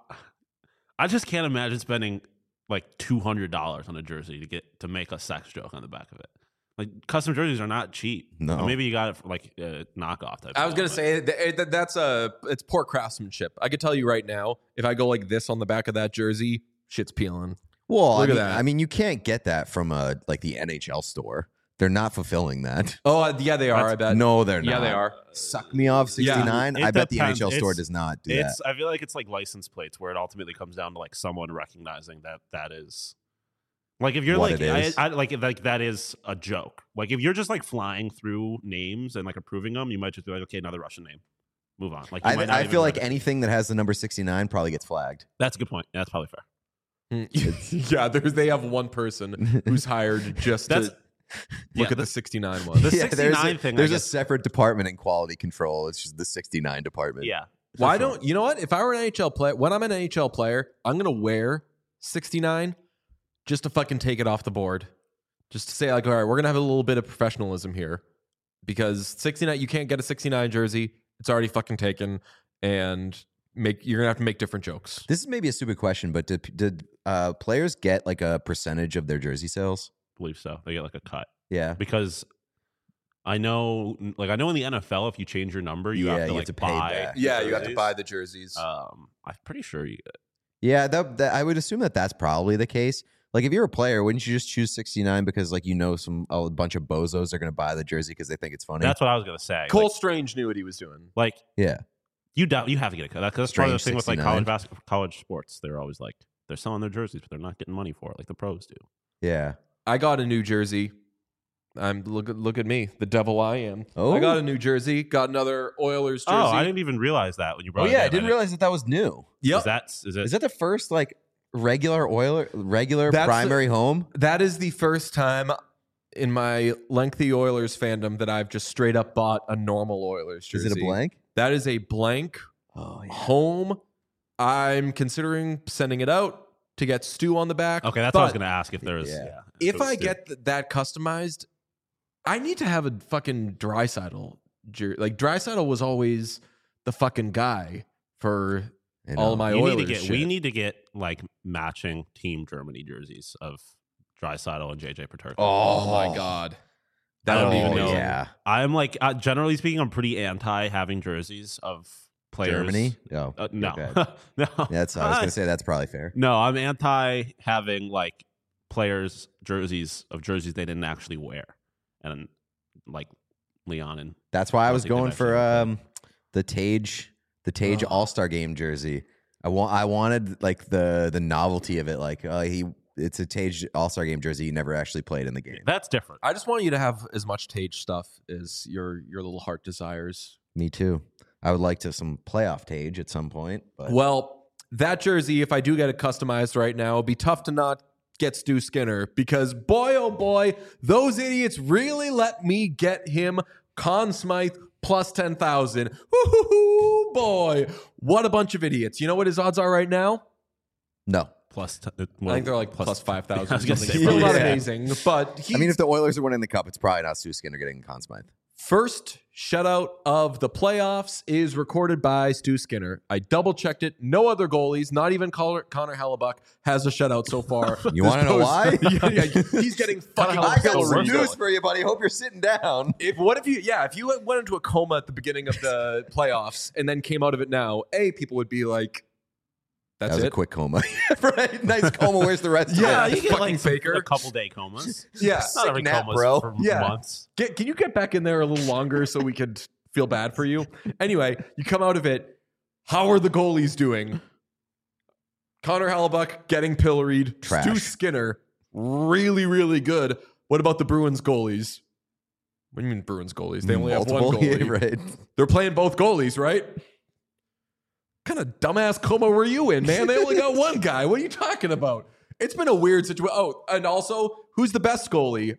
I just can't imagine spending like $200 on a jersey to make a sex joke on the back of it. Like custom jerseys are not cheap. No. Or maybe you got it for like a knockoff type. I was gonna deal, say that's it's poor craftsmanship. I could tell you right now, if I go like this on the back of that jersey, shit's peeling. Well, Look at that. I mean, you can't get that from like the NHL store. They're not fulfilling that. Oh yeah, they are. I bet. No, they're not. Yeah, they are. Suck me off 69. It I bet the depends. NHL store It's- does not do that. I feel like it's like license plates where it ultimately comes down to like someone recognizing that is like if you're What like it is. I like that is a joke. Like if you're just like flying through names and like approving them, you might just be like, okay, another Russian name. Move on. Like you might not I even feel like notice. anything that has the number 69 probably gets flagged. That's a good point. Yeah, that's probably fair. Yeah, they have one person who's hired just That's- to look yeah, at the 69 one. The Yeah, 69 thing. I There's a guess- separate department in quality control. It's just the 69 department. yeah. Why for sure. don't you know what? If I were an NHL player, when I'm an NHL player, I'm gonna wear 69 just to fucking take it off the board. Just to say like, all right, we're gonna have a little bit of professionalism here because 69, you can't get a 69 jersey. It's already fucking taken, and you're gonna have to make different jokes. This is maybe a stupid question, but did players get like a percentage of their jersey sales? believe so. They get like a cut Yeah. because I know in the NFL, if you change your number, you have to like pay buy. back. Yeah, you have to jerseys. buy the jerseys. I'm pretty sure you. Yeah, that I would assume that's probably the case. Like if you're a player, wouldn't you just choose 69 because like a bunch of bozos are going to buy the jersey because they think it's funny? That's what I was gonna say. Cole Like, Strange knew what he was doing. like yeah. you have to get a cut. That's part of the Strange thing with like 69. college basketball, college sports. They're always like they're selling their jerseys, but they're not getting money for it like the pros do. Yeah. I got a new jersey. Look at me, the devil I am. Oh. I got a new jersey. Got another Oilers jersey. Oh, I didn't even realize that when you brought Oh it yeah, in. I didn't realize that was new. Yep. Is it Is that the first like regular That's primary home? That is the first time in my lengthy Oilers fandom that I've just straight up bought a normal Oilers jersey. Is it a blank? That is a blank Oh home. I'm considering sending it out to get Stu on the back. okay? That's what I was But gonna ask if there was. Yeah. Yeah. If it was I Stu. get that customized, I need to have a fucking Draisaitl jersey. Like Draisaitl was always the fucking guy for all of my You Oilers need to get. shit. We need to get like matching Team Germany jerseys of Draisaitl and JJ Peterka. Oh my god. I don't would be even know. Yeah. I'm like generally speaking, I'm pretty anti having jerseys of players. Germany? Oh. No, okay. no. That's I was going to say that's probably fair. No, I'm anti having like players jerseys they didn't actually wear, and like Leon and That's why I I was think they've going for actually the Tage All-Star game jersey. I wanted like the novelty of it, like it's a Tage All-Star game jersey. He never actually played in the game. that's different. I just want you to have as much Tage stuff as your little heart desires. Me too. I would like to some playoff Tage at some point, but Well, that jersey, if I do get it customized right now, it'd be tough to not get Stu Skinner because boy, oh boy, those idiots really let me get him Conn Smythe plus 10,000. Woo-hoo-hoo, boy. What a bunch of idiots. You know what his odds are right now? no. Plus, I think they're like plus 5,000. I was gonna say, Still not yeah. amazing, but I mean, if the Oilers are winning the cup, it's probably not Stu Skinner getting Conn Smythe. First shutout of the playoffs is recorded by Stu Skinner. I double checked it. No other goalies, not even Connor Hellebuck, has a shutout so far. You want to know why? yeah, he's getting fucking. I got some pilloried. news for you, buddy. Hope you're sitting down. If you went into a coma at the beginning of the playoffs and then came out of it now, people would be like, That "That's was it." a quick coma. Right? Nice coma. Where's the rest? Yeah, of it? you get fucking like faker. a couple day comas. Yeah, Not every nap, coma's bro. for Yeah. months. Can you get back in there a little longer so we could feel bad for you? Anyway, you come out of it. How are the goalies doing? Connor Hellebuck getting pilloried. Trash. Stu Skinner, really, really good. What about the Bruins goalies? What do you mean Bruins goalies? They only have one Multiple, goalie. yeah, right? They're playing both goalies, right? What kind of dumbass coma were you in, man? They only got one guy. What are you talking about? It's been a weird situation. Oh, and also, who's the best goalie?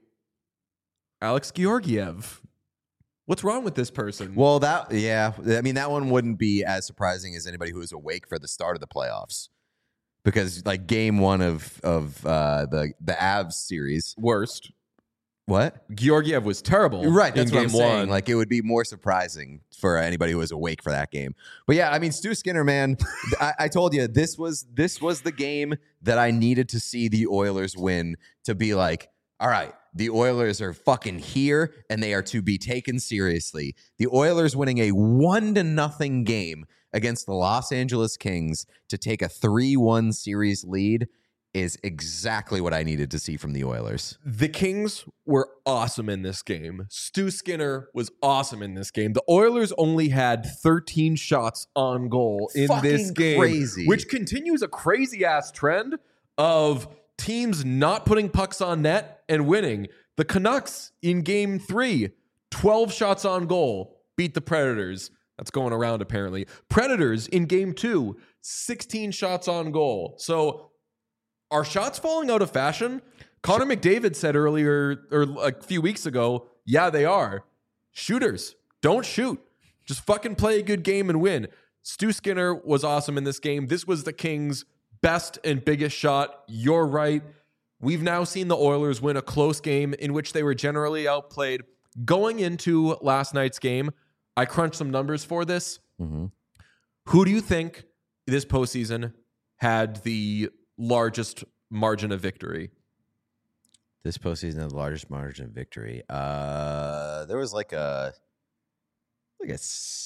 Alex Georgiev. What's wrong with this person? Well, I mean, that one wouldn't be as surprising as anybody who was awake for the start of the playoffs, because like game one of the Avs series. Worst. What? Georgiev was terrible. Right, that's in what I'm game saying. one. Like, it would be more surprising for anybody who was awake for that game. But yeah, I mean, Stu Skinner, man, I told you this was the game that I needed to see the Oilers win to be like, all right, the Oilers are fucking here and they are to be taken seriously. The Oilers winning a 1-0 game against the Los Angeles Kings to take a 3-1 series lead is exactly what I needed to see from the Oilers. The Kings were awesome in this game. Stu Skinner was awesome in this game. The Oilers only had 13 shots on goal in Fucking this game, crazy. which continues a crazy-ass trend of teams not putting pucks on net and winning. The Canucks in game 3, 12 shots on goal, beat the Predators. That's going around apparently. Predators in game 2, 16 shots on goal. So are shots falling out of fashion? Connor McDavid said earlier, or a few weeks ago, yeah, they are. Shooters, don't shoot. Just fucking play a good game and win. Stu Skinner was awesome in this game. This was the Kings' best and biggest shot. You're right. We've now seen the Oilers win a close game in which they were generally outplayed. Going into last night's game, I crunched some numbers for this. Mm-hmm. Who do you think this postseason had the largest margin of victory? This postseason had the largest margin of victory. There was like a I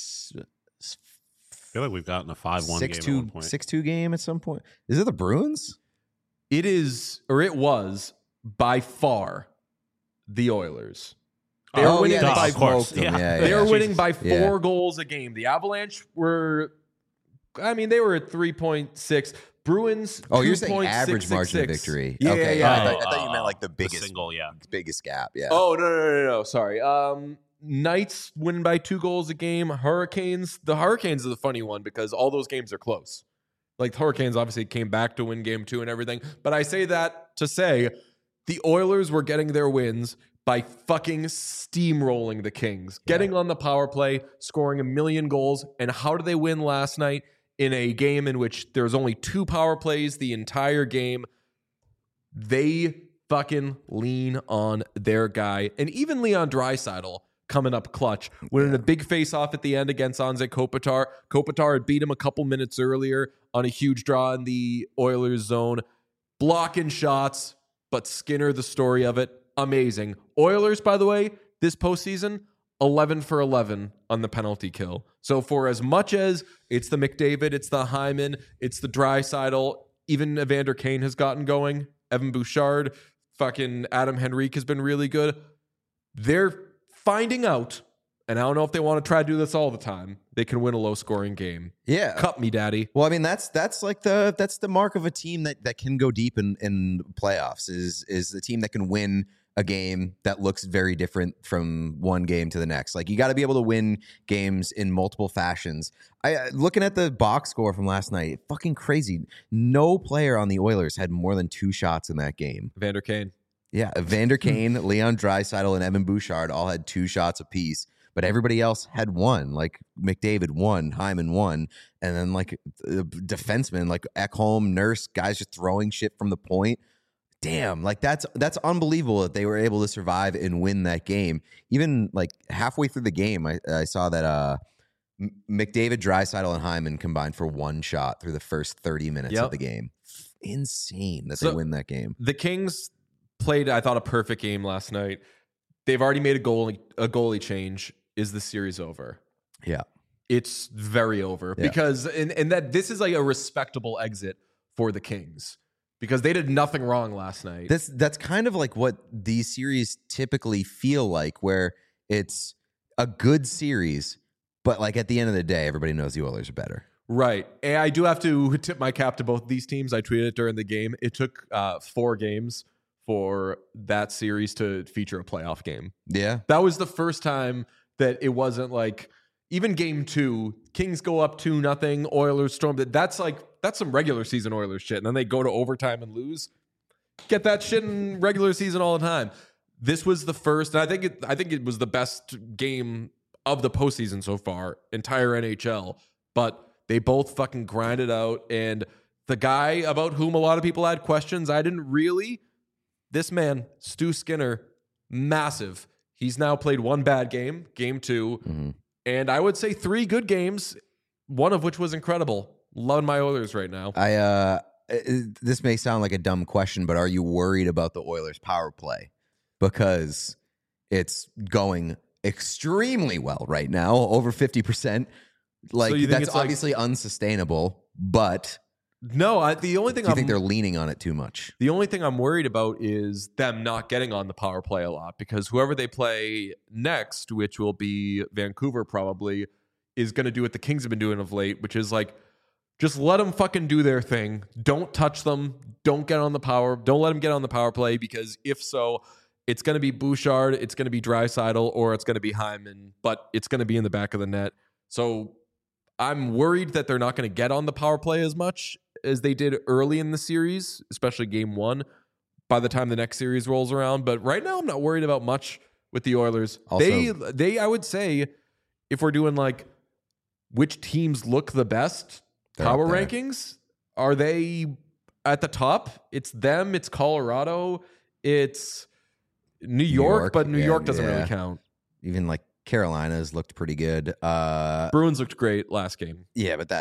feel like we've gotten a 5-1 game at one point. 6-2 game at some point. Is it the Bruins? It is, or it was, by far the Oilers. They were winning yeah, by of course. smoked them. Yeah. They were winning Jesus. by Yeah. 4 goals a game. The Avalanche were, they were at 3.6. Bruins. Oh, you're saying average margin of 2.666. victory. Yeah, Okay, yeah. I thought you meant like the biggest, single, yeah. biggest gap. Yeah. Oh, no. Sorry. Knights winning by 2 goals a game. The Hurricanes are the funny one because all those games are close. Like, the Hurricanes obviously came back to win game 2 and everything. But I say that to say the Oilers were getting their wins by fucking steamrolling the Kings, getting on the power play, scoring 1 million goals. And how did they win last night in a game in which there was only 2 power plays the entire game? They fucking lean on their guy. And even Leon Draisaitl coming up clutch, winning a big face-off at the end against Anze Kopitar. Kopitar had beat him a couple minutes earlier on a huge draw in the Oilers zone. Blocking shots, but Skinner, the story of it, amazing. Oilers, by the way, this postseason, 11 for 11 on the penalty kill. So for as much as it's the McDavid, it's the Hyman, it's the Draisaitl, even Evander Kane has gotten going, Evan Bouchard, fucking Adam Henrique has been really good. They're finding out, and I don't know if they want to try to do this all the time, they can win a low-scoring game. Yeah. Cup me, daddy. Well, I mean, that's like that's the mark of a team that can go deep in playoffs is the team that can win a game that looks very different from one game to the next. Like, you got to be able to win games in multiple fashions. Looking at the box score from last night, fucking crazy. No player on the Oilers had more than 2 shots in that game. Evander Kane. Yeah, Evander Kane, Leon Draisaitl, and Evan Bouchard all had 2 shots apiece, but everybody else had 1. Like McDavid 1, Hyman 1, and then like defensemen like Ekholm, Nurse, guys just throwing shit from the point. damn, like that's unbelievable that they were able to survive and win that game. Even like halfway through the game, I saw that McDavid, Draisaitl, and Hyman combined for one shot through the first 30 minutes of the game. Insane that they win that game. The Kings played, I thought, a perfect game last night. They've already made a goalie change. Is the series over? Yeah. It's very over because and that this is like a respectable exit for the Kings because they did nothing wrong last night. That's kind of like what these series typically feel like, where it's a good series, but like at the end of the day, everybody knows the Oilers are better. Right. And I do have to tip my cap to both these teams. I tweeted it during the game. It took 4 games for that series to feature a playoff game. Yeah. That was the first time that it wasn't like, even game 2, Kings go up 2-0, Oilers storm. That's some regular season Oilers shit. And then they go to overtime and lose. Get that shit in regular season all the time. This was the first, and I think it was the best game of the postseason so far, entire NHL. But they both fucking grinded out. And the guy about whom a lot of people had questions, I didn't really. This man, Stu Skinner, massive. He's now played 1 bad game, game 2. Mm-hmm. And I would say 3 good games, one of which was incredible. Loving my Oilers right now. This may sound like a dumb question, but are you worried about the Oilers power play? Because it's going extremely well right now, over 50%. Like, so that's obviously unsustainable, but no, the only thing I think they're leaning on it too much. The only thing I'm worried about is them not getting on the power play a lot, because whoever they play next, which will be Vancouver probably, is going to do what the Kings have been doing of late, which is like, just let them fucking do their thing. Don't touch them. Don't get on the power. Don't let them get on the power play, because if so, it's going to be Bouchard, it's going to be Draisaitl, or it's going to be Hyman, but it's going to be in the back of the net. So I'm worried that they're not going to get on the power play as much as they did early in the series, especially game 1, by the time the next series rolls around. But right now, I'm not worried about much with the Oilers. Also, they I would say, if we're doing like which teams look the best, power rankings, are they at the top? It's them, it's Colorado, it's New York, but New York doesn't really count. Even like Carolina's looked pretty good. Bruins looked great last game. Yeah, but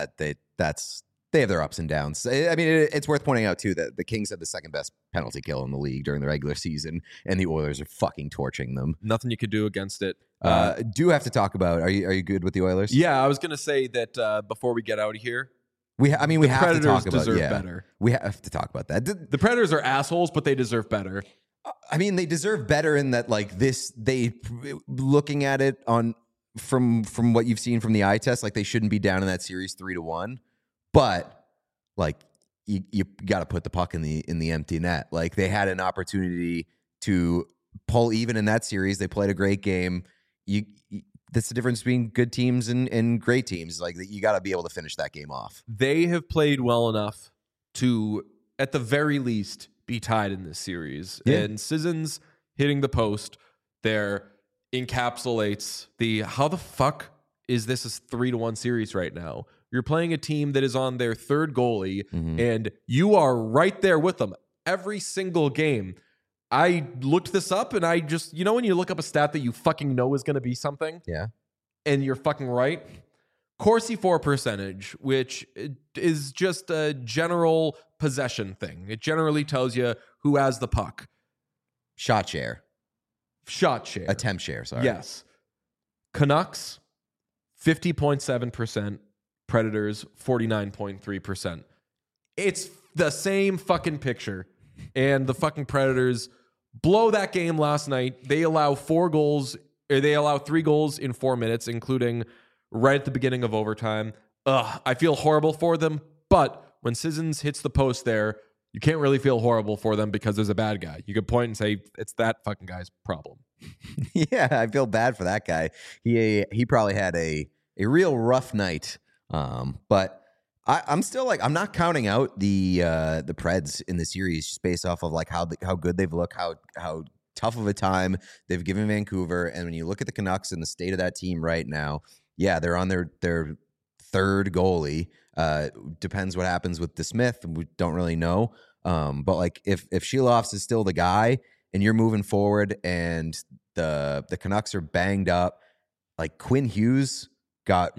they have their ups and downs. I mean, it's worth pointing out, too, that the Kings had the second best penalty kill in the league during the regular season, and the Oilers are fucking torching them. Nothing you could do against it. Do have to talk about, are you good with the Oilers? Yeah, I was going to say that before we get out of here, we have to talk about better. We have to talk about that. The Predators are assholes, but they deserve better. I mean, they deserve better in that, like, looking at it from what you've seen from the eye test, like, they shouldn't be down in that series 3-1. But like you got to put the puck in the empty net. Like, they had an opportunity to pull even in that series. They played a great game. That's the difference between good teams and great teams. Like, you got to be able to finish that game off. They have played well enough to, at the very least, be tied in this series. Yeah. And Sissons hitting the post there encapsulates how the fuck is this a 3-1 series right now? You're playing a team that is on their 3rd goalie, and you are right there with them every single game. I looked this up, and I just, when you look up a stat that you fucking know is going to be something, and you're fucking right. Corsi for percentage, which is just a general possession thing. It generally tells you who has the puck. Shot share. Attempt share, sorry. Yes. Canucks, 50.7%. Predators, 49.3%. It's the same fucking picture. And the fucking Predators blow that game last night. They allow 3 goals in 4 minutes, including right at the beginning of overtime. I feel horrible for them, but when Sissons hits the post there, you can't really feel horrible for them because there's a bad guy. You could point and say, it's that fucking guy's problem. Yeah, I feel bad for that guy. He probably had a real rough night. But I'm still like, I'm not counting out the Preds in the series just based off of like how good they've looked, how tough of a time they've given Vancouver. And when you look at the Canucks and the state of that team right now, yeah, they're on their 3rd goalie. Depends what happens with DeSmith. We don't really know. But like if Sheilofs is still the guy and you're moving forward and the Canucks are banged up, like Quinn Hughes got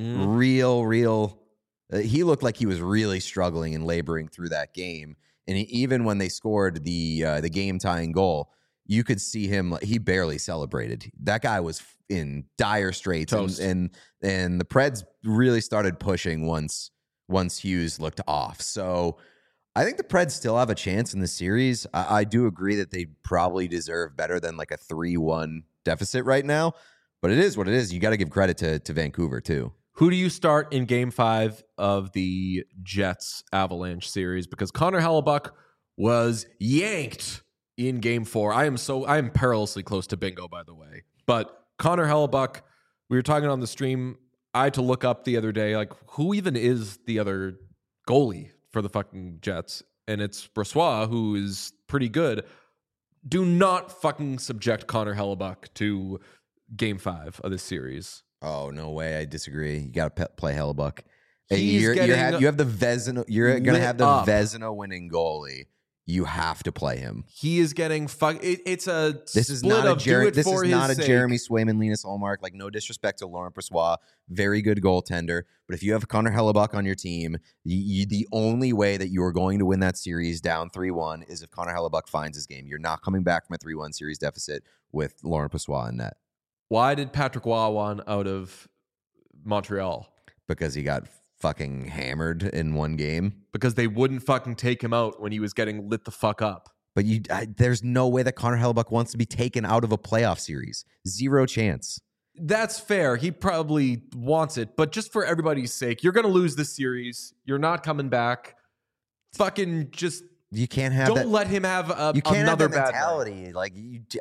real. He looked like he was really struggling and laboring through that game. And even when they scored the game tying goal, you could see him. He barely celebrated. That guy was in dire straits, and the Preds really started pushing once Hughes looked off. So I think the Preds still have a chance in the series. I do agree that they probably deserve better than like a 3-1 deficit right now. But it is what it is. You got to give credit to Vancouver too. Who do you start in Game 5 of the Jets Avalanche series? Because Connor Hellebuck was yanked in Game 4. I am perilously close to bingo, by the way. But Connor Hellebuck, we were talking on the stream. I had to look up the other day, like, who even is the other goalie for the fucking Jets? And it's Brossoit, who is pretty good. Do not fucking subject Connor Hellebuck to Game 5 of this series. Oh, no way. I disagree. You got to play Hellebuck. You have the Vezina. You're going to have the Vezina winning goalie. You have to play him. He is getting It's a this is split not a of do it this for is his not a sake. Jeremy Swayman, Linus Ullmark. Like, no disrespect to Laurent Brossoit, very good goaltender. But if you have Connor Hellebuck on your team, the only way that you are going to win that series down 3-1 is if Connor Hellebuck finds his game. You're not coming back from a 3-1 series deficit with Laurent Brossoit in net. Why did Patrick Waugh want out of Montreal? Because he got fucking hammered in one game. Because they wouldn't fucking take him out when he was getting lit the fuck up. But there's no way that Connor Hellebuck wants to be taken out of a playoff series. Zero chance. That's fair. He probably wants it. But just for everybody's sake, you're going to lose this series. You're not coming back. Fucking just you can't have don't let him have you can't another have that bad mentality. night. Like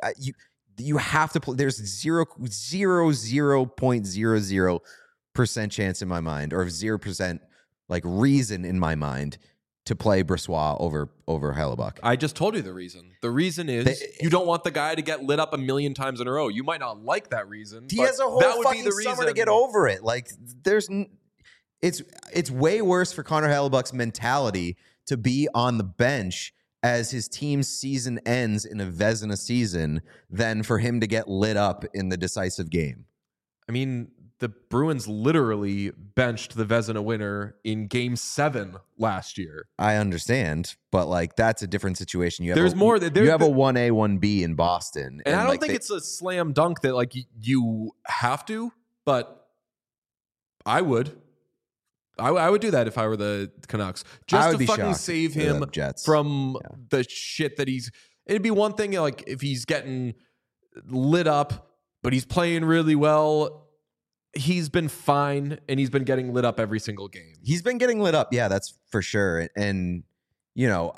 you have to play. There's 0.00% chance in my mind, or 0% like reason in my mind to play Brossoit over Hellebuck. I just told you the reason. The reason is you don't want the guy to get lit up a million times in a row. You might not like that reason. He but has a whole that would fucking be the summer reason to get over it. Like it's way worse for Connor Hellebuck's mentality to be on the bench as his team's season ends in a Vezina season than for him to get lit up in the decisive game. I mean, the Bruins literally benched the Vezina winner in Game 7 last year. I understand, but like that's a different situation. You have There's more. You have a 1A, 1B in Boston, and I don't think it's a slam dunk that like you have to, but I would. I would do that if I were the Canucks, just to fucking save him from the shit that he's. It'd be one thing like if he's getting lit up, but he's playing really well. He's been fine, and he's been getting lit up every single game. He's been getting lit up, yeah, that's for sure. And you know,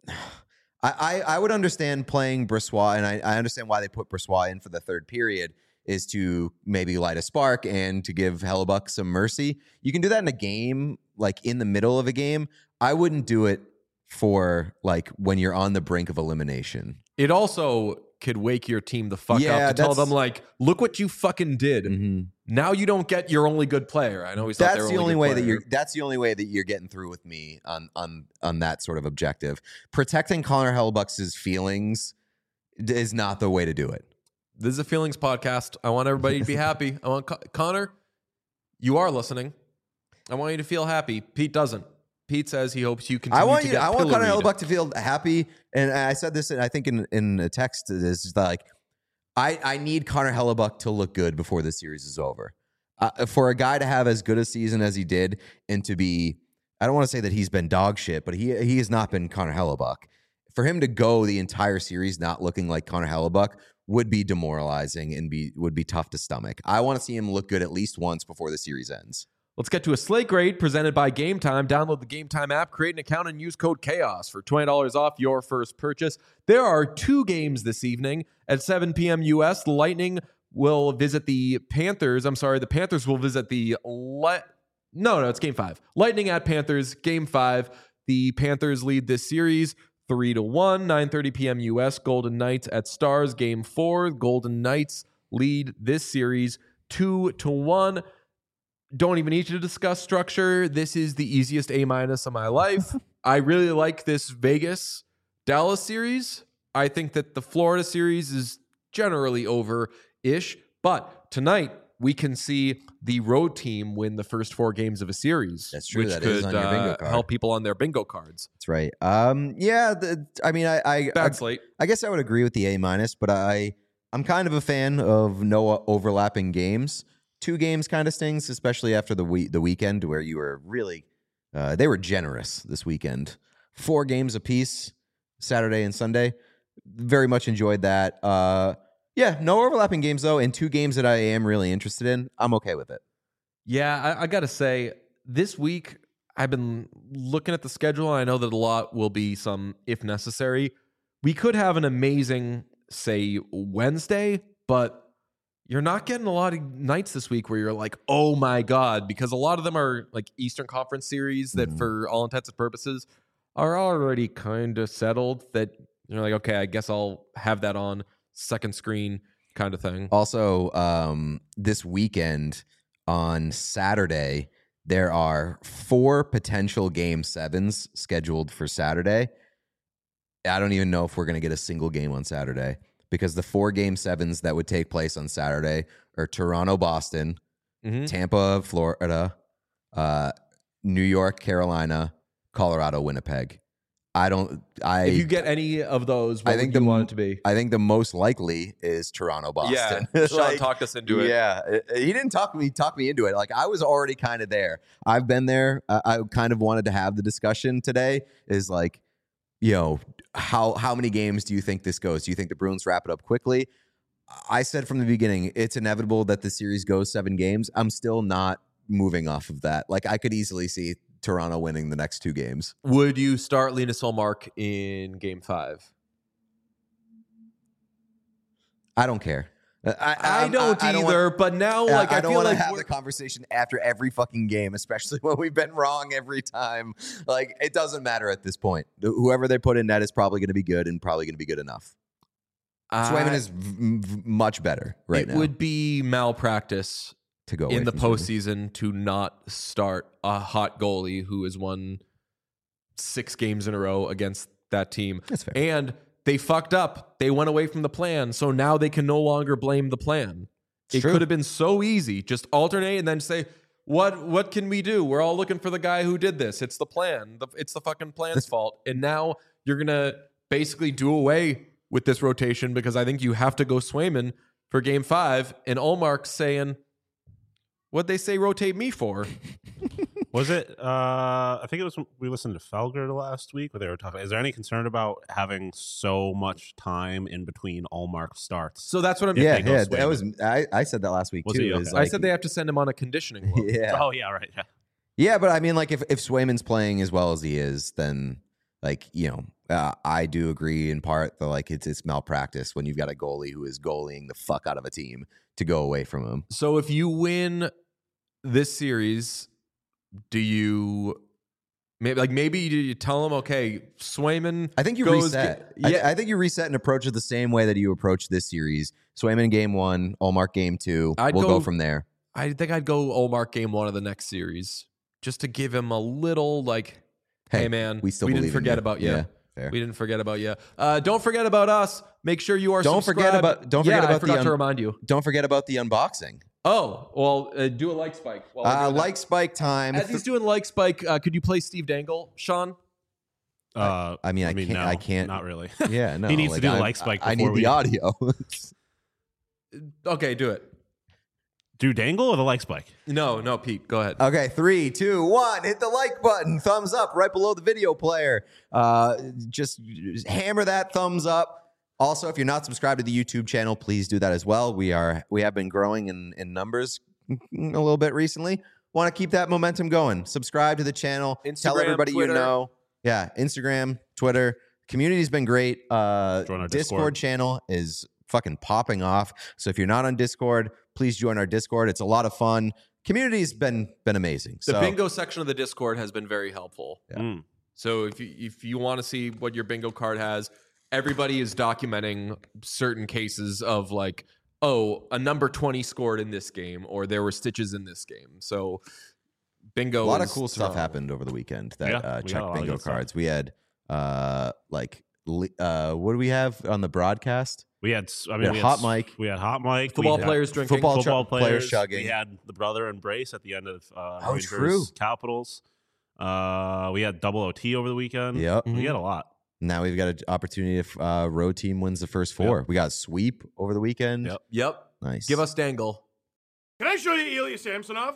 I would understand playing Brossoit, and I understand why they put Brossoit in for the third period. Is to maybe light a spark and to give Hellebuck some mercy. You can do that in a game, like in the middle of a game. I wouldn't do it for like when you're on the brink of elimination. It also could wake your team the fuck up to tell them like, look what you fucking did. Mm-hmm. Now you don't get your only good player. I know he's that's the only way that that's the only way that you're getting through with me on that sort of objective. Protecting Connor Hellebuck's feelings is not the way to do it. This is a feelings podcast. I want everybody to be happy. I want Connor, you are listening. I want you to feel happy. Pete doesn't. Pete says he hopes you continue to get I want Connor Hellebuck to feel happy. And I said this, I think in a text, is like, I need Connor Hellebuck to look good before the series is over. For a guy to have as good a season as he did and to be, I don't want to say that he's been dog shit, but he has not been Connor Hellebuck. For him to go the entire series not looking like Connor Hellebuck would be demoralizing and would be tough to stomach. I want to see him look good at least once before the series ends. Let's get to a slate grade presented by Game Time. Download the Game Time app, create an account, and use code CHAOS for $20 off your first purchase. There are 2 games this evening at 7 p.m. U.S. The Lightning will visit the Panthers. I'm sorry, the Panthers will visit the... No, it's Game 5. Lightning at Panthers, Game 5. The Panthers lead this series 3-1, 9:30 p.m. U.S. Golden Knights at Stars, Game 4. Golden Knights lead this series 2-1. Don't even need to discuss structure. This is the easiest A- of my life. I really like this Vegas Dallas series, I think that the Florida series is generally over-ish. But tonight, we can see the road team win the first 4 games of a series. That's true. Which That could is on your bingo card. help people on their bingo cards. That's right. Yeah. Bad slate. I guess I would agree with the A-, but I'm kind of a fan of no overlapping games. 2 games kind of stings, especially after the weekend where you were really, they were generous this weekend. 4 games apiece, Saturday and Sunday. Very much enjoyed that. Yeah, no overlapping games though, and 2 games that I am really interested in. I'm okay with it. Yeah, I got to say, this week I've been looking at the schedule. And I know that a lot will be some if necessary. We could have an amazing, say, Wednesday, but you're not getting a lot of nights this week where you're like, oh my God, because a lot of them are like Eastern Conference series that for all intents and purposes are already kind of settled, that you're like, okay, I guess I'll have that on second screen kind of thing. Also, this weekend on Saturday, there are 4 potential Game 7s scheduled for Saturday. I don't even know if we're going to get a single game on Saturday, because the 4 Game 7s that would take place on Saturday are Toronto, Boston, Tampa, Florida, New York, Carolina, Colorado, Winnipeg. If you get any of those, what I think would you want it to be? I think the most likely is Toronto, Boston. Yeah, Sean talked us into it. Yeah, he didn't talk me into it. Like, I was already kind of there. I've been there. I kind of wanted to have the discussion today. Is like, how many games do you think this goes? Do you think the Bruins wrap it up quickly? I said from the beginning, it's inevitable that the series goes 7 games. I'm still not moving off of that. Like, I could easily see Toronto winning the next 2 games. Would you start Linus Ullmark in Game 5? I don't care. I don't either. But now, like, I don't feel want to like have the conversation after every fucking game, especially when we've been wrong every time. Like, it doesn't matter at this point. Whoever they put in net is probably going to be good and probably going to be good enough. Swayman is much better right now. It would be malpractice to go in the away from postseason to not start a hot goalie who has won 6 games in a row against that team. That's fair. And they fucked up. They went away from the plan. So now they can no longer blame the plan. It could have been so easy. Just alternate and then say, what can we do? We're all looking for the guy who did this. It's the plan. It's the fucking plan's fault. And now you're going to basically do away with this rotation, because I think you have to go Swayman for Game 5. And Ullmark's saying, what'd they say rotate me for? Was it? I think it was when we listened to Felger last week where they were talking. Is there any concern about having so much time in between Ullmark starts? So that's what I'm. Yeah. That was. I said that last week Was too. he? Okay. Is I said they have to send him on a conditioning load. Yeah. Oh yeah, right. Yeah. Yeah, but I mean, like, if Swayman's playing as well as he is, then, like, I do agree in part that, like, it's malpractice when you've got a goalie who is goalieing the fuck out of a team to go away from him. So if you win this series, do you maybe you tell him, okay, Swayman? I think you goes reset. Yeah, I think you reset and approach it the same way that you approach this series. Swayman Game 1, Ullmark Game 2. We'll go from there. I think I'd go Ullmark Game 1 of the next series, just to give him a little, like, hey man, we didn't forget about you. Yeah, fair. We didn't forget about you. Don't forget about us. Make sure you are. Don't forget about. I forgot to remind you. Don't forget about the unboxing. Oh, well, do a like spike. Like spike time. As he's doing like spike, could you play Steve Dangle, Sean? I mean, no, I can't. Not really. Yeah, no. He needs to do like spike. I need the audio. Okay, do it. Do Dangle or the like spike? No, Pete, go ahead. Okay, 3, 2, 1. Hit the like button. Thumbs up right below the video player. Just hammer that thumbs up. Also, if you're not subscribed to the YouTube channel, please do that as well. We have been growing in numbers a little bit recently. Want to keep that momentum going. Subscribe to the channel. Instagram, tell everybody Twitter. you know. Yeah, Instagram, Twitter. Community's been great. Join our Discord channel is fucking popping off. So if you're not on Discord, please join our Discord. It's a lot of fun. Community's been amazing. The So bingo section of the Discord has been very helpful. Yeah. Mm. So if you want to see what your bingo card has, everybody is documenting certain cases of, like, oh, a number 20 scored in this game, or there were stitches in this game. So bingo. a lot of is cool stuff phenomenal. happened over the weekend that Yeah, we got a checked lot of bingo good stuff. cards. We had like what do we have on the broadcast? We had, Hot Mike. We had Hot Mike. Football we had players drinking. Football players chugging. We had the brother embrace at the end of Rangers true. Capitals. We had double OT over the weekend. Yep. We had a lot. Now we've got an opportunity if road team wins the first 4. Yep. We got sweep over the weekend. Yep. Yep. Nice. Give us Dangle. Can I show you Ilya Samsonov?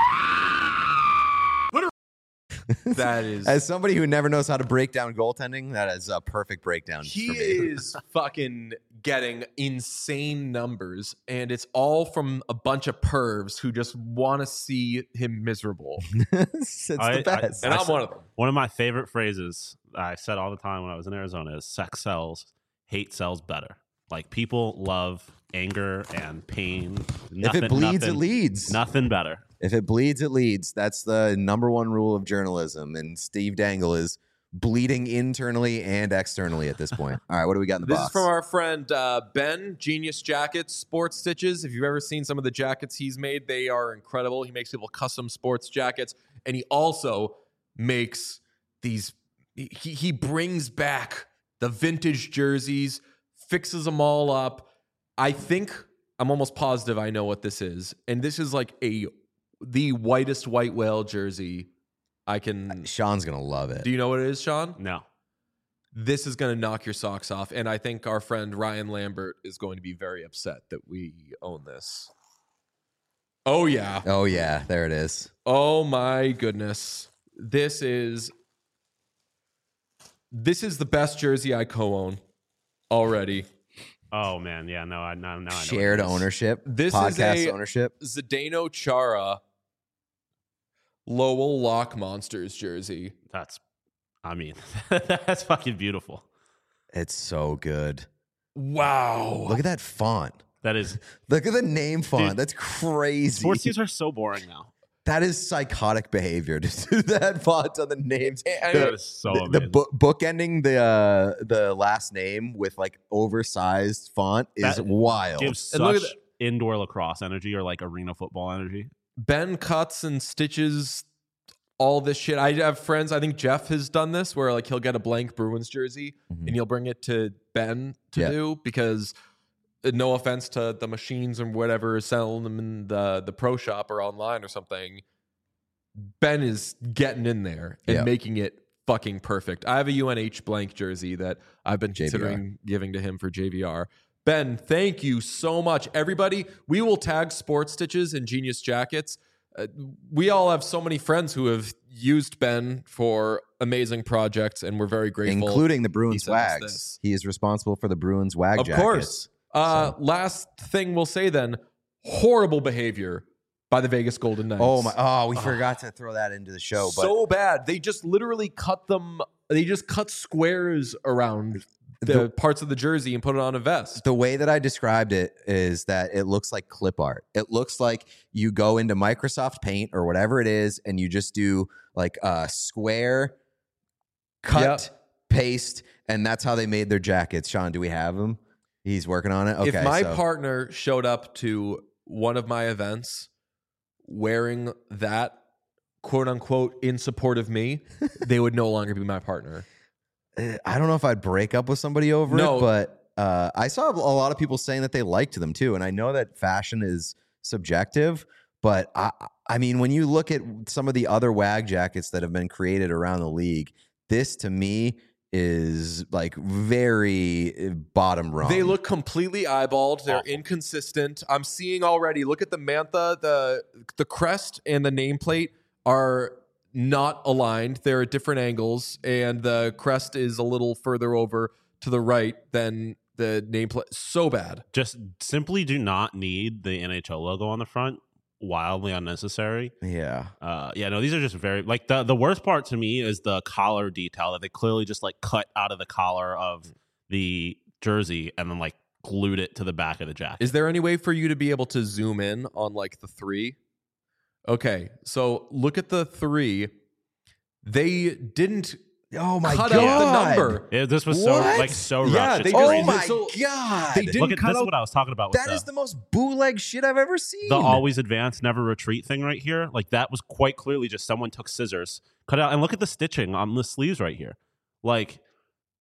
That is. As somebody who never knows how to break down goaltending, that is a perfect breakdown He for me. is fucking getting insane numbers, and it's all from a bunch of pervs who just want to see him miserable. It's the best. And I'm one of them. One of my favorite phrases I said all the time when I was in Arizona is sex sells, hate sells better. Like, people love anger and pain. If it bleeds, it leads. Nothing better. If it bleeds, it leads. That's the number one rule of journalism. And Steve Dangle is bleeding internally and externally at this point. All right, what do we got in the This box? is from our friend Ben, Genius Jackets, Sports Stitches. If you've ever seen some of the jackets he's made, they are incredible. He makes people custom sports jackets, and he also makes these. He brings back the vintage jerseys, fixes them all up. I think I'm almost positive I know what this is, and this is like the whitest white whale jersey I can. Sean's going to love it. Do you know what it is, Sean? No. This is going to knock your socks off. And I think our friend Ryan Lambert is going to be very upset that we own this. Oh, yeah. Oh, yeah. There it is. Oh, my goodness. This is the best jersey I co-own already. Oh, man. Yeah, no, I know. Shared ownership. This podcast is a ownership. Zdeno Chara Lowell Lock Monsters jersey. That's fucking beautiful. It's so good. Wow. Look at that font. That is. Look at the name font. Dude, That's crazy. Sports teams are so boring now. That is psychotic behavior to do that font on the names. That is so the amazing. bookending the last name with like oversized font is That wild. Gives And look such at indoor lacrosse energy or like arena football energy. Ben cuts and stitches all this shit. I have friends, I think Jeff has done this, where like he'll get a blank Bruins jersey and he'll bring it to Ben to do, because no offense to the machines and whatever selling them in the pro shop or online or something, Ben is getting in there and making it fucking perfect. I have a UNH blank jersey that I've been considering giving to him for JVR. Ben, thank you so much. Everybody, we will tag Sports Stitches and Genius Jackets. We all have so many friends who have used Ben for amazing projects, and we're very grateful. Including the Bruins sent us Wags. this. He is responsible for the Bruins Wag Of jackets. course. Last thing we'll say then, horrible behavior by the Vegas Golden Knights. We forgot to throw that into the show. But So bad. They just literally cut squares around the parts of the jersey and put it on a vest. the way that I described it is that it looks like clip art. It looks like you go into Microsoft Paint or whatever it is, and you just do like a square, cut, paste, and that's how they made their jackets. Sean, do we have them? He's working on it. Okay. If my partner showed up to one of my events wearing that, quote unquote, in support of me, they would no longer be my partner. I don't know if I'd break up with somebody over it, but I saw a lot of people saying that they liked them too. And I know that fashion is subjective, but I mean, when you look at some of the other WAG jackets that have been created around the league, this to me is like very bottom rung. They look completely eyeballed. They're inconsistent. I'm seeing already. Look at the mantha, the crest and the nameplate are not aligned. They're at different angles, and the crest is a little further over to the right than the nameplate. So bad. Just simply do not need the NHL logo on the front. Wildly unnecessary. Yeah. No, these are just very like the worst part to me is the collar detail that they clearly just like cut out of the collar of the jersey and then like glued it to the back of the jacket. Is there any way for you to be able to zoom in on like the 3? Okay, so look at the 3. They didn't Oh my cut god! out the number. This was What? so Yeah, rushed. they It's just- crazy. Oh my So- god! They didn't Look at cut this is out. what I was talking about with That is the most bootleg shit I've ever seen. the always advance, never retreat thing right here. Like that was quite clearly just someone took scissors, cut out, and look at the stitching on the sleeves right here. Like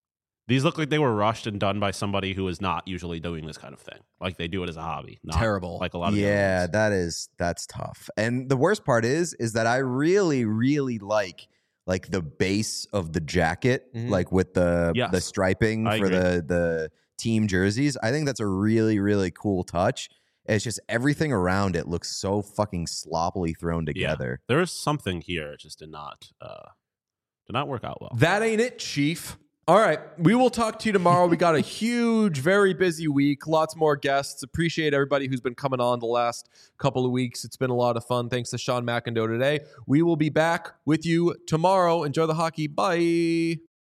These look like they were rushed and done by somebody who is not usually doing this kind of thing. Like they do it as a hobby. Not Terrible. Like a lot of the other Yeah, ones. that's tough. And the worst part is that I really, really like the base of the jacket, like with the striping I for agree. the team jerseys. I think that's a really, really cool touch. It's just everything around it looks so fucking sloppily thrown together. There is something here. It just did not work out well. That ain't it, Chief. All right. We will talk to you tomorrow. We got a huge, very busy week. Lots more guests. Appreciate everybody who's been coming on the last couple of weeks. It's been a lot of fun. Thanks to Sean McIndoe today. We will be back with you tomorrow. Enjoy the hockey. Bye.